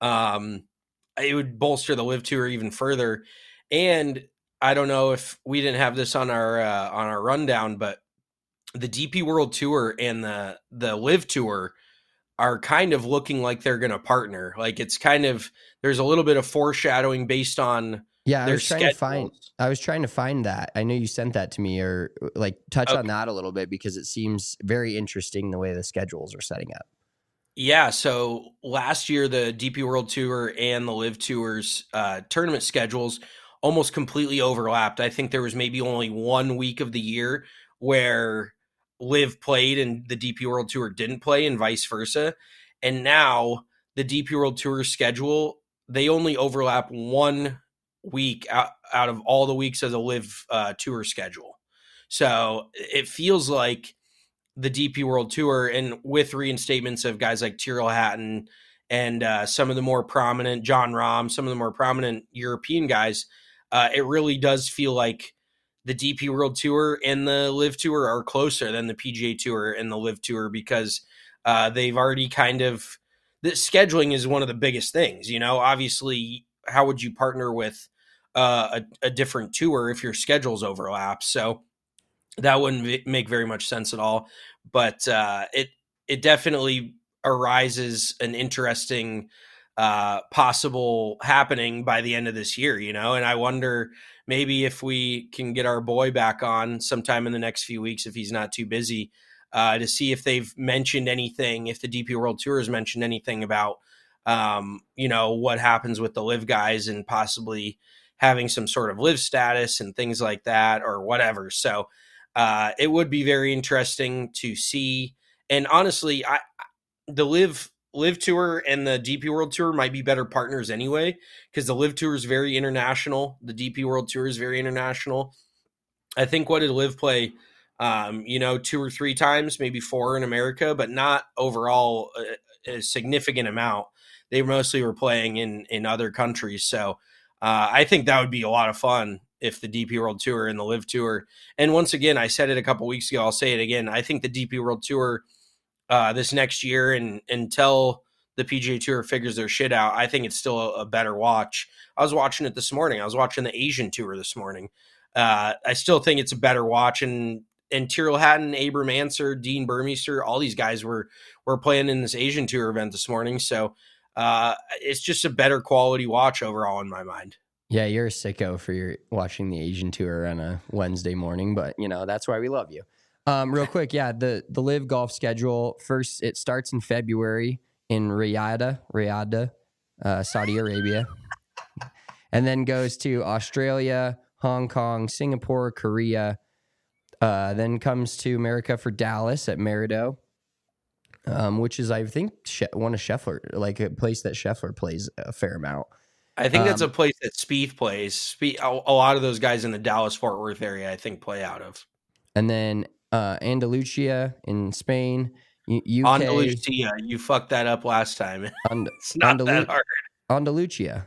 it would bolster the live tour even further. And I don't know if we didn't have this on our rundown, but the DP World Tour and the Live Tour are kind of looking like they're going to partner. Like, it's kind of, there's a little bit of foreshadowing based on I was trying to find that. I know you sent that to me, or like touch on that a little bit, because it seems very interesting the way the schedules are setting up. Yeah, so last year the DP World Tour and the Live Tour's tournament schedules almost completely overlapped. I think there was maybe only 1 week of the year where Live played and the DP World Tour didn't play, and vice versa. And now the DP World Tour schedule, they only overlap 1 week out of all the weeks of the Live Tour schedule. So it feels like the DP World Tour, and with reinstatements of guys like Tyrrell Hatton and some of the more prominent Jon Rahm, some of the more prominent European guys, it really does feel like the DP World Tour and the Live Tour are closer than the PGA Tour and the Live Tour, because they've already kind of, the scheduling is one of the biggest things. Obviously, how would you partner with a different tour if your schedules overlap? So that wouldn't make very much sense at all. But it definitely arises an interesting possible happening by the end of this year, and I wonder maybe if we can get our boy back on sometime in the next few weeks, if he's not too busy, to see if they've mentioned anything, if the DP World Tour has mentioned anything about, what happens with the live guys and possibly having some sort of live status and things like that or whatever. So it would be very interesting to see. And honestly, the live Live Tour and the DP World Tour might be better partners anyway, because the Live Tour is very international. The DP World Tour is very international. I think what did Live play, 2 or 3 times, maybe 4 in America, but not overall a significant amount. They mostly were playing in other countries. So I think that would be a lot of fun if the DP World Tour and the Live Tour. And once again, I said it a couple weeks ago, I'll say it again. I think the DP World Tour this next year and until the PGA Tour figures their shit out, I think it's still a better watch. I was watching it this morning. I was watching the Asian Tour this morning. I still think it's a better watch. And Tyrrell Hatton, Abram Anser, Dean Burmeister, all these guys were playing in this Asian Tour event this morning. So it's just a better quality watch overall in my mind. Yeah, you're a sicko for your watching the Asian Tour on a Wednesday morning, but that's why we love you. Real quick, yeah, the Live Golf schedule. First, it starts in February in Riyadh, Saudi Arabia, and then goes to Australia, Hong Kong, Singapore, Korea. Then comes to America for Dallas at Merido, which is, I think, one of Scheffler, like a place that Scheffler plays a fair amount. I think that's a place that Spieth plays. A lot of those guys in the Dallas-Fort Worth area, I think, play out of. And then Andalusia in Spain, UK. Andalusia, you fucked that up last time. It's not that hard. Andalusia.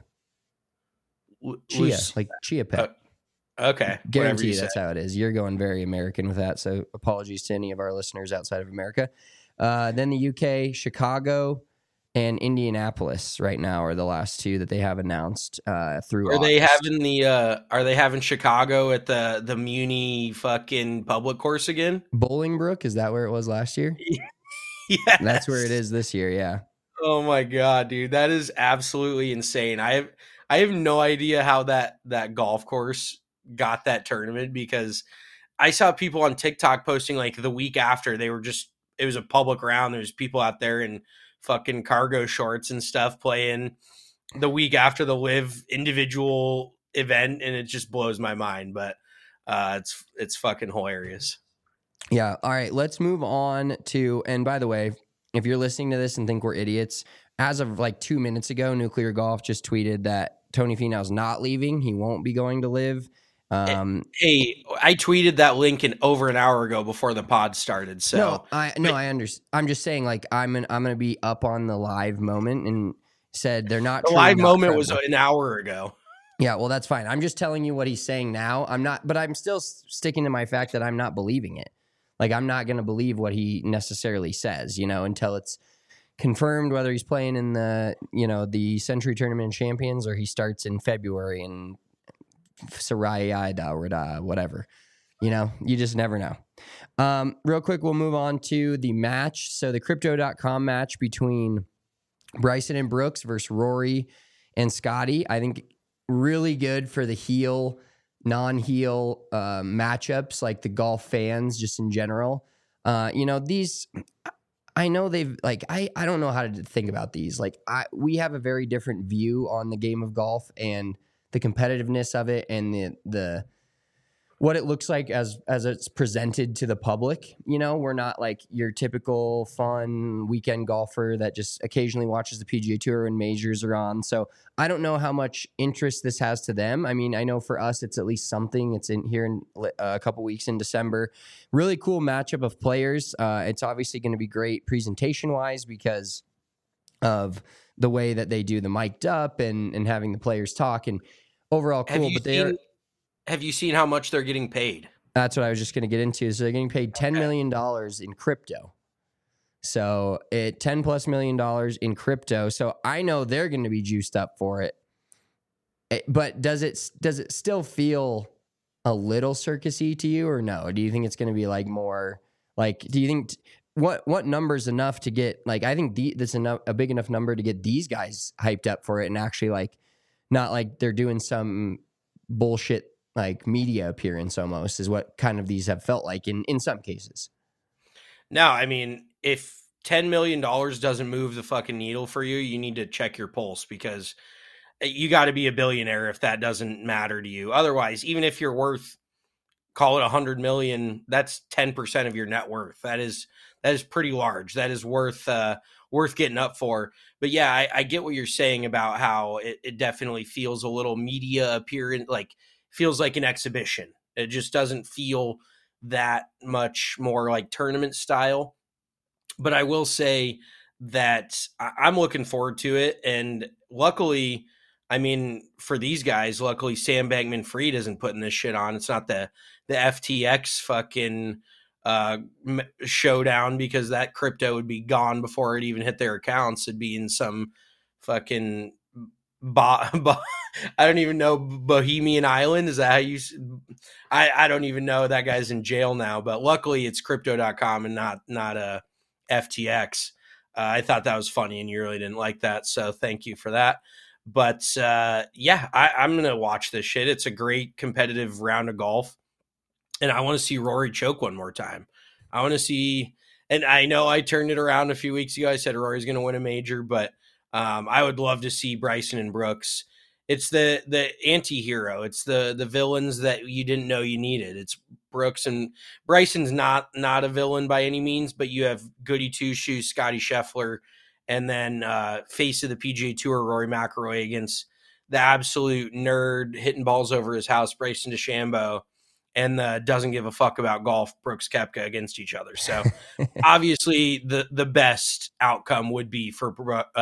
Chia, like Chia Pet. Okay. Guarantee that's how it is. You're going very American with that, so apologies to any of our listeners outside of America. Then the UK, Chicago, and Indianapolis right now are the last 2 that they have announced through Are August. They having Chicago at the Muni fucking public course again? Bolingbrook, is that where it was last year? Yeah. That's where it is this year, yeah. Oh my god, dude. That is absolutely insane. I have no idea how that golf course got that tournament, because I saw people on TikTok posting like the week after it was a public round. There's people out there in fucking cargo shorts and stuff playing the week after the Live individual event, and it just blows my mind. But it's fucking hilarious. Yeah. All right. Let's move on to, and by the way, if you're listening to this and think we're idiots, as of like 2 minutes ago, Nuclear Golf just tweeted that Tony Finau's not leaving. He won't be going to Live. Hey, I tweeted that link over an hour ago before the pod started. So I understand. I'm just saying, like, I'm gonna be up on the live moment and said they're not. The live moment was an hour ago. Yeah, well, that's fine. I'm just telling you what he's saying now. But I'm still sticking to my fact that I'm not believing it. Like, I'm not gonna believe what he necessarily says, until it's confirmed whether he's playing in the the Century Tournament of Champions or he starts in February and. Saraya, whatever. You just never know. Real quick, we'll move on to the match. So the Crypto.com match between Bryson and Brooks versus Rory and Scotty. I think really good for the heel, non-heel matchups, like the golf fans just in general. These... I know they've I don't know how to think about these. We have a very different view on the game of golf and the competitiveness of it and the what it looks like as it's presented to the public. We're not like your typical fun weekend golfer that just occasionally watches the PGA Tour when majors are on. So I don't know how much interest this has to them. I mean, I know for us, it's at least something. It's in here in a couple weeks in December. Really cool matchup of players. It's obviously going to be great presentation wise because of the way that they do the mic'd up and having the players talk and overall cool. Have you seen how much they're getting paid? That's what I was just going to get into. So they're getting paid $10 million in crypto. So $10+ million in crypto. So I know they're going to be juiced up for it. But does it still feel a little circusy to you or no? Do you think it's going to be like more like, do you think what number's enough to get like, I think that's a big enough number to get these guys hyped up for it and actually like, not like they're doing some bullshit like media appearance almost is what kind of these have felt like in some cases. No, I mean, if $10 million doesn't move the fucking needle for you, you need to check your pulse because you got to be a billionaire if that doesn't matter to you. Otherwise, even if you're worth, call it 100 million, that's 10% of your net worth. That is pretty large. That is worth worth getting up for. But yeah, I get what you're saying about how it definitely feels a little media appearance, like feels like an exhibition. It just doesn't feel that much more like tournament style. But I will say that I'm looking forward to it. And luckily, I mean, for these guys, luckily Sam Bankman-Fried isn't putting this shit on. It's not the FTX fucking showdown, because that crypto would be gone before it even hit their accounts. It'd be in some fucking I don't even know, Bohemian Island. Is that how you? I don't even know. That guy's in jail now. But luckily, it's Crypto.com and not a FTX. I thought that was funny, and you really didn't like that, so thank you for that. But yeah, I'm gonna watch this shit. It's a great competitive round of golf, and I want to see Rory choke one more time. I want to see, and I know I turned it around a few weeks ago. I said Rory's gonna win a major, but I would love to see Bryson and Brooks. It's the anti-hero. It's the villains that you didn't know you needed. It's Brooks, and Bryson's not a villain by any means, but you have goody two-shoes Scotty Scheffler, and then face of the PGA Tour Rory McIlroy against the absolute nerd hitting balls over his house Bryson DeChambeau, and doesn't give a fuck about golf Brooks Koepka against each other. So obviously the best outcome would be for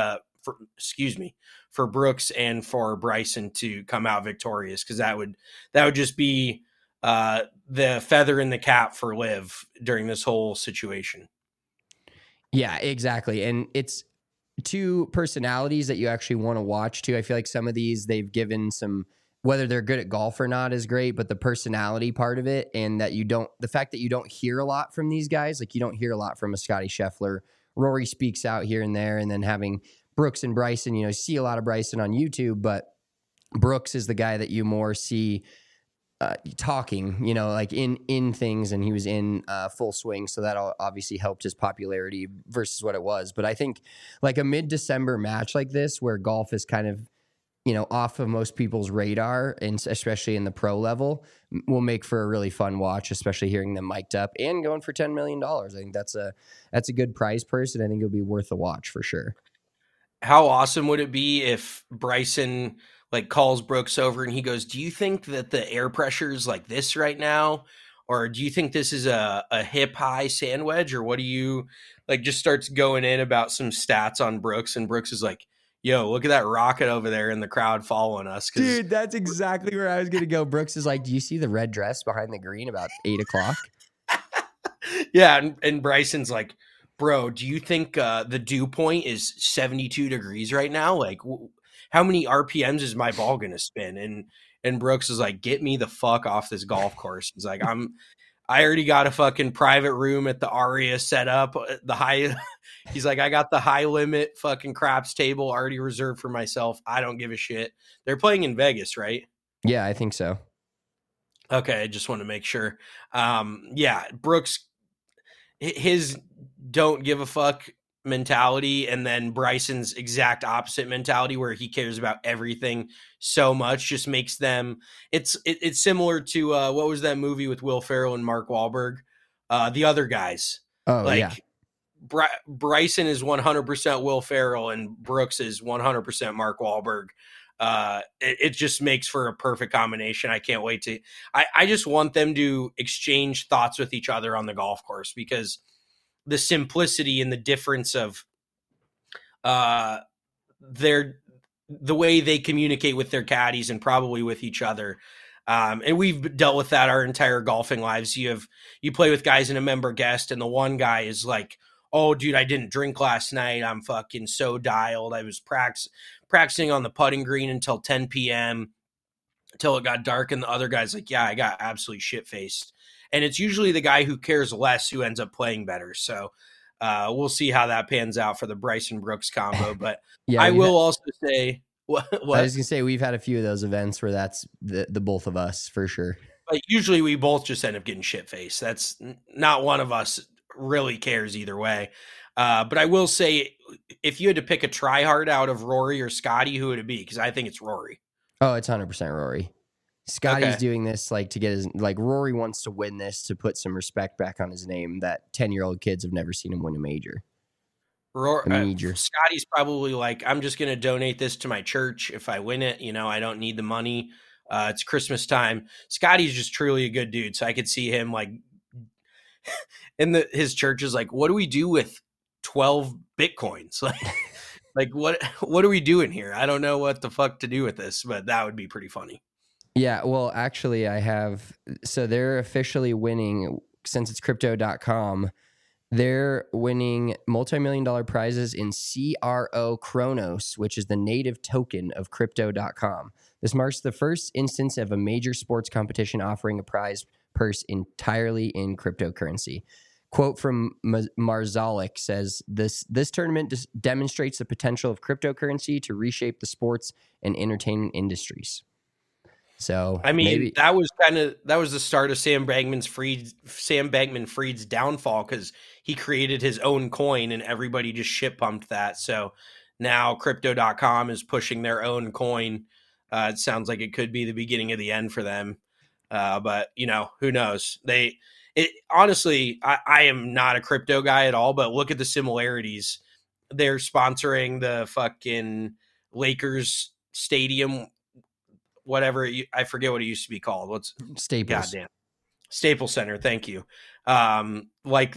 Brooks and for Bryson to come out victorious, because that would just be the feather in the cap for Liv during this whole situation. Yeah, exactly. And it's two personalities that you actually want to watch too. I feel like some of these they've given some, whether they're good at golf or not is great, but the personality part of it, and that the fact that you don't hear a lot from these guys, like you don't hear a lot from a Scotty Scheffler. Rory speaks out here and there, and then having Brooks and Bryson, you see a lot of Bryson on YouTube, but Brooks is the guy that you more see talking, like in things, and he was in full swing. So that obviously helped his popularity versus what it was. But I think like a mid-December match like this, where golf is kind of, off of most people's radar, and especially in the pro level, will make for a really fun watch, especially hearing them mic'd up and going for $10 million. I think that's a good prize purse, and I think it'll be worth a watch for sure. How awesome would it be if Bryson calls Brooks over and he goes, "Do you think that the air pressure is like this right now? Or do you think this is a hip high sand wedge? Or what do you just starts going in about some stats on Brooks?" And Brooks is like, "Yo, look at that rocket over there in the crowd following us." Dude, that's exactly where I was going to go. Brooks is like, "Do you see the red dress behind the green about 8:00? Yeah. And Bryson's like, "Bro, do you think the dew point is 72 degrees right now? How many RPMs is my ball going to spin?" And Brooks is like, "Get me the fuck off this golf course." He's like, I already got a fucking private room at the Aria set up. He's like, "I got the high limit fucking craps table already reserved for myself. I don't give a shit." They're playing in Vegas, right? Yeah, I think so. Okay, I just want to make sure. Yeah, Brooks, his don't give a fuck mentality, and then Bryson's exact opposite mentality, where he cares about everything so much, just makes them. It's similar to what was that movie with Will Ferrell and Mark Wahlberg, The Other Guys. Oh, yeah. Bryson is 100% Will Ferrell, and Brooks is 100% Mark Wahlberg. It just makes for a perfect combination. I can't wait to. I just want them to exchange thoughts with each other on the golf course, because the simplicity and the difference of the way they communicate with their caddies and probably with each other. And we've dealt with that our entire golfing lives. You play with guys in a member guest, and the one guy is like, "Oh, dude, I didn't drink last night. I'm fucking so dialed. I was practicing on the putting green until 10 p.m. until it got dark." And the other guy's like, "Yeah, I got absolutely shit-faced." And it's usually the guy who cares less who ends up playing better. So we'll see how that pans out for the Bryson Brooks combo. But yeah, I will also say, what? I was going to say, we've had a few of those events where that's the both of us for sure. But usually we both just end up getting shit-faced. That's not one of us really cares either way. But I will say, if you had to pick a tryhard out of Rory or Scotty, who would it be? Because I think it's Rory. Oh, it's 100% Rory. Scotty's doing this to get his, Rory wants to win this to put some respect back on his name that 10-year-old kids have never seen him win a major. Scotty's probably like, I'm just going to donate this to my church if I win it. I don't need the money. It's Christmas time. Scotty's just truly a good dude. So I could see him like his church is like, what do we do with 12 Bitcoins? Like what are we doing here? I don't know what the fuck to do with this, but that would be pretty funny. Yeah, well, actually so they're officially winning, since it's crypto.com, they're winning multi-million-dollar prizes in CRO Chronos, which is the native token of crypto.com. This marks the first instance of a major sports competition offering a prize purse entirely in cryptocurrency. Quote from Marzalik says, this tournament demonstrates the potential of cryptocurrency to reshape the sports and entertainment industries. So I mean, that was the start of Sam Bankman-Fried's downfall, because he created his own coin and everybody just shit pumped that. So now crypto.com is pushing their own coin. It sounds like it could be the beginning of the end for them. But who knows? Honestly, I am not a crypto guy at all, but look at the similarities. They're sponsoring the fucking Lakers stadium, whatever, I forget what it used to be called. What's Staples? Goddamn, Staples Center. Thank you. Like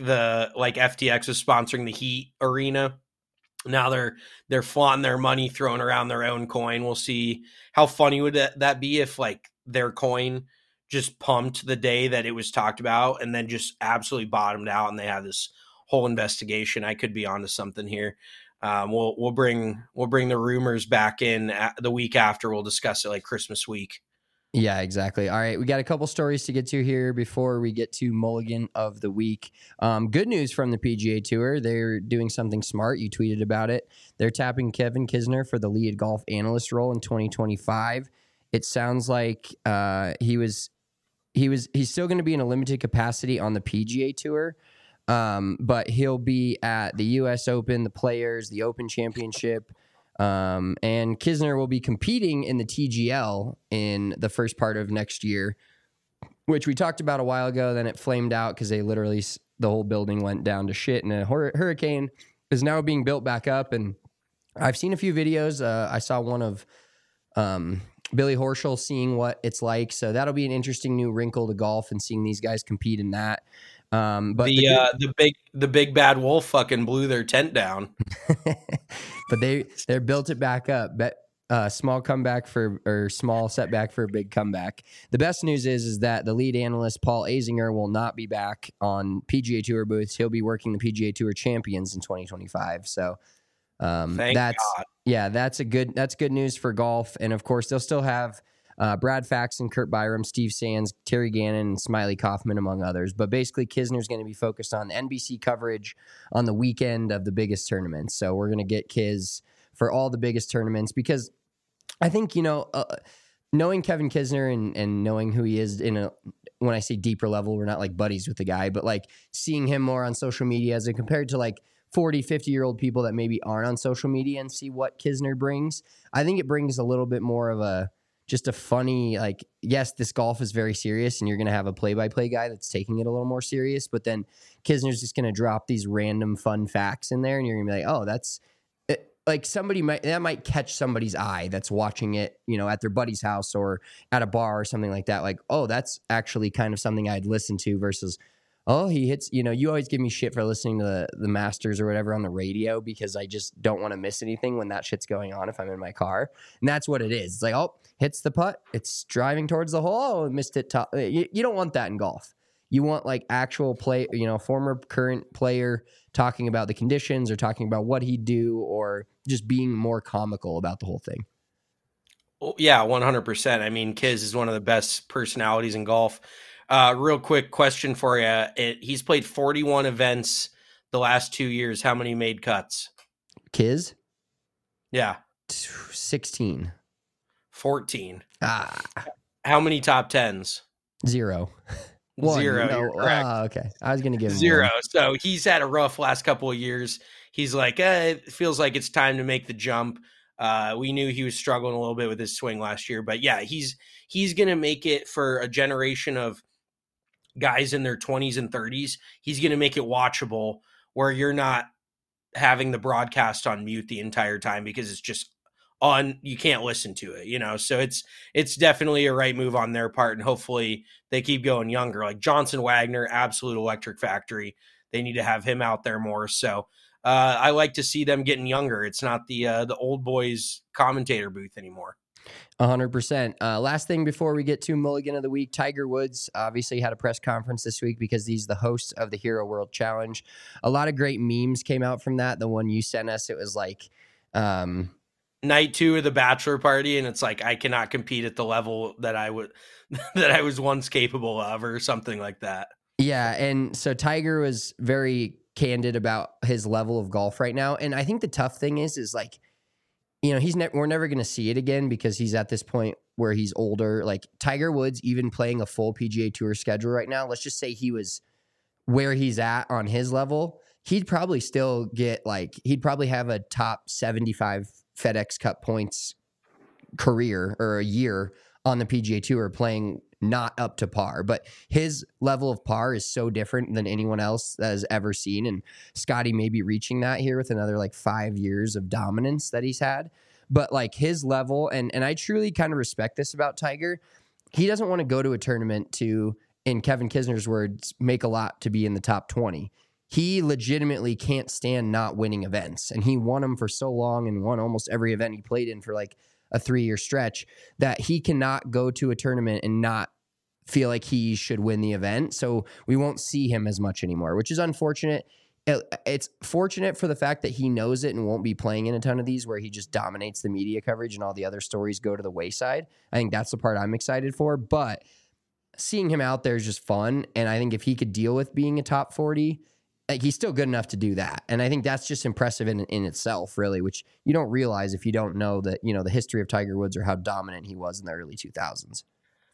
FTX is sponsoring the Heat arena. Now they're flaunting their money, throwing around their own coin. We'll see how funny would that be if like their coin just pumped the day that it was talked about and then just absolutely bottomed out, and they have this whole investigation. I could be onto something here. We'll bring the rumors back in the week after. We'll discuss it like Christmas week. Yeah, exactly. All right, we got a couple stories to get to here before we get to Mulligan of the Week. Good news from the PGA Tour. They're doing something smart. You tweeted about it. They're tapping Kevin Kisner for the lead golf analyst role in 2025. It sounds like he's still going to be in a limited capacity on the PGA Tour. But he'll be at the U.S. Open, the Players, the Open Championship, and Kisner will be competing in the TGL in the first part of next year, which we talked about a while ago. Then it flamed out because the whole building went down to shit, and a hurricane is now being built back up. And I've seen a few videos. I saw one of Billy Horschel seeing what it's like, so that'll be an interesting new wrinkle to golf and seeing these guys compete in that. But the big bad wolf fucking blew their tent down. But they're built it back up. Small setback for a big comeback. The best news is that the lead analyst Paul Azinger will not be back on PGA Tour booths. He'll be working the PGA Tour Champions in 2025. So thank God. That's good news for golf. And of course, they'll still have Brad Faxon, Kurt Byram, Steve Sands, Terry Gannon, and Smiley Kaufman, among others. But basically, Kisner's going to be focused on NBC coverage on the weekend of the biggest tournaments. So we're going to get Kiz for all the biggest tournaments, because I think, knowing Kevin Kisner and knowing who he is when I say deeper level, we're not like buddies with the guy, but like seeing him more on social media as compared to like 40, 50-year-old people that maybe aren't on social media and see what Kisner brings. I think it brings a little bit more of just a funny, like, yes, this golf is very serious and you're going to have a play-by-play guy that's taking it a little more serious, but then Kisner's just going to drop these random fun facts in there and you're going to be like, oh, that's like that might catch somebody's eye that's watching it, at their buddy's house or at a bar or something like that. Like, oh, that's actually kind of something I'd listen to versus, oh, he hits, you always give me shit for listening to the Masters or whatever on the radio because I just don't want to miss anything when that shit's going on if I'm in my car. And that's what it is. It's like, oh, hits the putt. It's driving towards the hole. Oh, missed it. You don't want that in golf. You want like actual play, former current player talking about the conditions or talking about what he'd do or just being more comical about the whole thing. Well, yeah, 100%. I mean, Kiz is one of the best personalities in golf. Real quick question for you. He's played 41 events the last 2 years. How many made cuts? Kiz? Yeah. 16. 14. How many top tens? 0. 0. No. You're correct. Okay. I was going to give him 0. 1. So he's had a rough last couple of years. He's like, it feels like it's time to make the jump. We knew he was struggling a little bit with his swing last year, but yeah, he's going to make it for a generation of guys in their 20s and 30s. He's going to make it watchable where you're not having the broadcast on mute the entire time because it's just on, you can't listen to it, so it's definitely a right move on their part, and hopefully they keep going younger. Like Johnson Wagner, absolute electric factory. They need to have him out there more. So I like to see them getting younger. It's not the old boys commentator booth anymore. 100%. Last thing before we get to Mulligan of the Week, Tiger Woods obviously had a press conference this week because he's the host of the Hero World Challenge. A lot of great memes came out from that. The one you sent us, it was like night 2 of the bachelor party, and it's like, I cannot compete at the level that I was once capable of, or something like that. Yeah, and so Tiger was very candid about his level of golf right now, and I think the tough thing is like, we're never going to see it again because he's at this point where he's older. Like Tiger Woods, even playing a full PGA Tour schedule right now, let's just say he was where he's at on his level, he'd probably still get he'd probably have a top 75 FedEx Cup points career or a year on the PGA Tour playing not up to par. But his level of par is so different than anyone else that has ever seen. And Scotty may be reaching that here with another 5 years of dominance that he's had. But his level, and I truly kind of respect this about Tiger, he doesn't want to go to a tournament to, in Kevin Kisner's words, make a lot to be in the top 20. He legitimately can't stand not winning events. And he won them for so long and won almost every event he played in for a 3-year stretch that he cannot go to a tournament and not feel like he should win the event. So we won't see him as much anymore, which is unfortunate. It's fortunate for the fact that he knows it and won't be playing in a ton of these where he just dominates the media coverage and all the other stories go to the wayside. I think that's the part I'm excited for, but seeing him out there is just fun. And I think if he could deal with being a top 40, he's still good enough to do that. And I think that's just impressive in itself, really, which you don't realize if you don't know that, the history of Tiger Woods or how dominant he was in the early 2000s.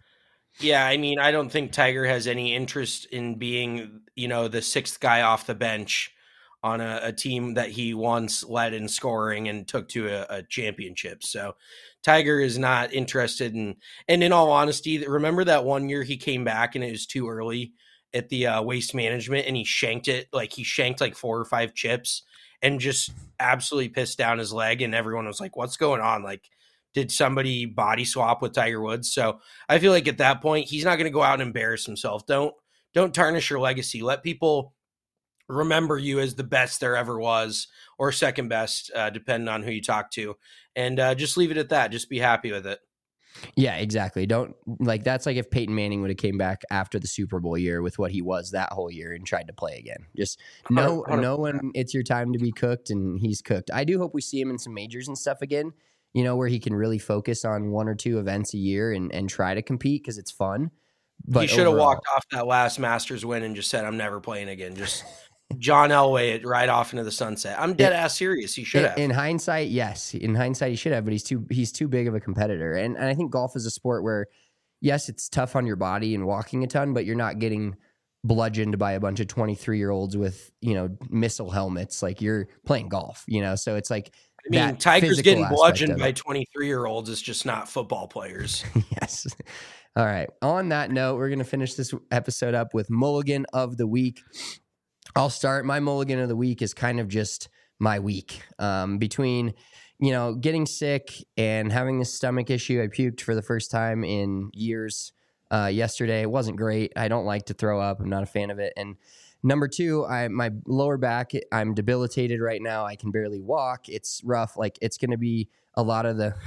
Yeah, I mean, I don't think Tiger has any interest in being, the sixth guy off the bench on a team that he once led in scoring and took to a championship. So Tiger is not interested in, and in all honesty, remember that one year he came back and it was too early at the Waste Management and he shanked it, he shanked 4 or 5 chips and just absolutely pissed down his leg. And everyone was like, what's going on? Did somebody body swap with Tiger Woods? So I feel like at that point, he's not going to go out and embarrass himself. Don't tarnish your legacy. Let people remember you as the best there ever was or second best, depending on who you talk to. And just leave it at that. Just be happy with it. Yeah, exactly. Don't that's like if Peyton Manning would have came back after the Super Bowl year with what he was that whole year and tried to play again. Just know when it's your time to be cooked, and he's cooked. I do hope we see him in some majors and stuff again, where he can really focus on 1 or 2 events a year and try to compete because it's fun. But he should have walked off that last Masters win and just said, I'm never playing again. Just John Elway it right off into the sunset. I'm dead ass serious. He should have. In hindsight, yes. In hindsight, he should have, but he's too big of a competitor. And I think golf is a sport where, yes, it's tough on your body and walking a ton, but you're not getting bludgeoned by a bunch of 23-year-olds with, missile helmets. You're playing golf, so it's Tiger's getting bludgeoned by 23-year-olds. It's just not football players. Yes. All right. On that note, we're going to finish this episode up with Mulligan of the Week. I'll start. My Mulligan of the Week is kind of just my week. Between, getting sick and having this stomach issue, I puked for the first time in years yesterday. It wasn't great. I don't like to throw up. I'm not a fan of it. And number 2, my lower back, I'm debilitated right now. I can barely walk. It's rough. It's going to be a lot of the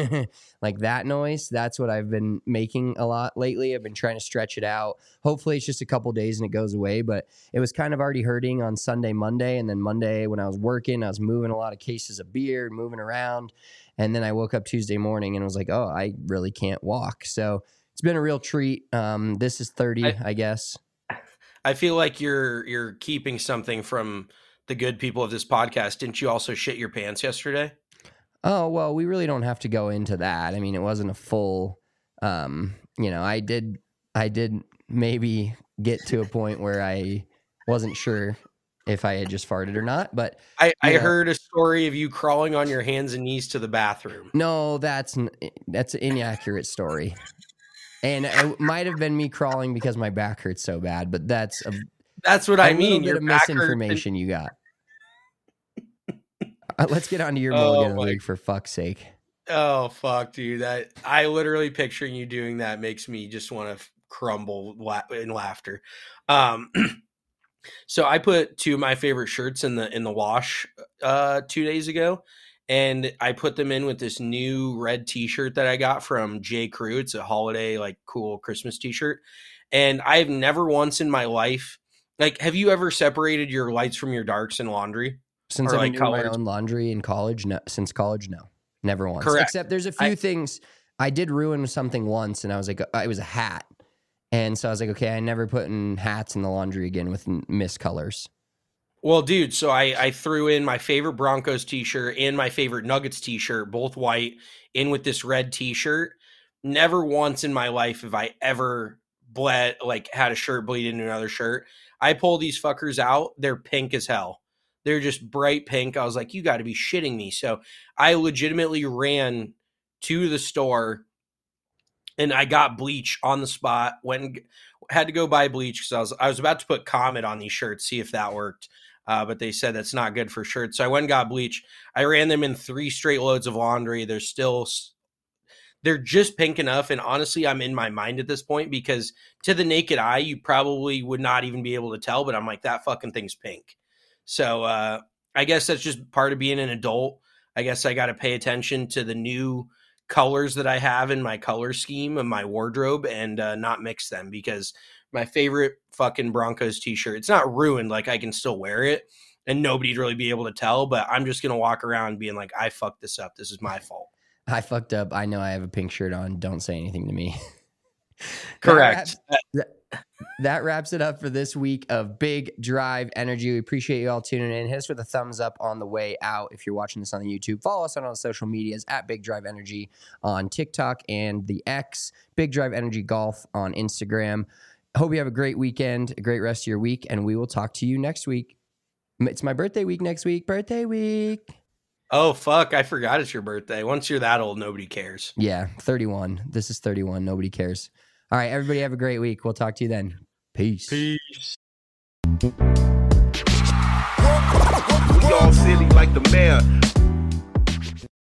that noise. That's what I've been making a lot lately. I've been trying to stretch it out. Hopefully it's just a couple days and it goes away, but it was kind of already hurting on Sunday, Monday. And then Monday when I was working, I was moving a lot of cases of beer, moving around. And then I woke up Tuesday morning and was like, oh, I really can't walk. So it's been a real treat. This is 30, I guess. I feel like you're keeping something from the good people of this podcast. Didn't you also shit your pants yesterday? Oh, well, we really don't have to go into that. I mean, it wasn't a full, I did maybe get to a point where I wasn't sure if I had just farted or not, but I heard a story of you crawling on your hands and knees to the bathroom. No, that's an inaccurate story. And it might have been me crawling because my back hurts so bad, but that's what I mean. Your misinformation you got. Let's get on to your mulligan of the week, for fuck's sake. Oh fuck, dude! That I literally picturing you doing that makes me just want to crumble in laughter. So I put 2 of my favorite shirts in the wash 2 days ago, and I put them in with this new red T-shirt that I got from J. Crew. It's a holiday, like, cool Christmas T-shirt, and I've never once in my life, like, have you ever separated your lights from your darks in laundry? Since I've been doing my own laundry in college, no. Since college, no. Never once. Correct. Except there's a few things. I did ruin something once, and I was like, it was a hat. And so I was like, okay, I never put in hats in the laundry again with mist colors. Well, dude, so I threw in my favorite Broncos T-shirt and my favorite Nuggets T-shirt, both white, in with this red T-shirt. Never once in my life have I ever had a shirt bleed into another shirt. I pull these fuckers out. They're pink as hell. They're just bright pink. I was like, you got to be shitting me. So I legitimately ran to the store and I got bleach on the spot. Had to go buy bleach because I was about to put Comet on these shirts, see if that worked. But they said that's not good for shirts. So I went and got bleach. I ran them in 3 straight loads of laundry. They're just pink enough. And honestly, I'm in my mind at this point because to the naked eye, you probably would not even be able to tell. But I'm like, that fucking thing's pink. So I guess that's just part of being an adult. I guess I got to pay attention to the new colors that I have in my color scheme of my wardrobe and not mix them, because my favorite fucking Broncos T-shirt, it's not ruined. Like, I can still wear it and nobody'd really be able to tell, but I'm just going to walk around being like, I fucked this up. This is my fault. I fucked up. I know I have a pink shirt on. Don't say anything to me. Correct. That wraps it up for this week of Big Drive Energy. We appreciate you all tuning in. Hit us with a thumbs up on the way out if you're watching this on the YouTube. Follow us on all the social medias at Big Drive Energy on TikTok and the X, Big Drive Energy Golf on Instagram. Hope you have a great weekend, a great rest of your week, and we will talk to you next week. It's my birthday week next week. Birthday week. Oh, fuck. I forgot it's your birthday. Once you're that old, nobody cares. Yeah, 31. This is 31. Nobody cares. All right, everybody have a great week. We'll talk to you then. Peace. Peace. We all silly like the mayor.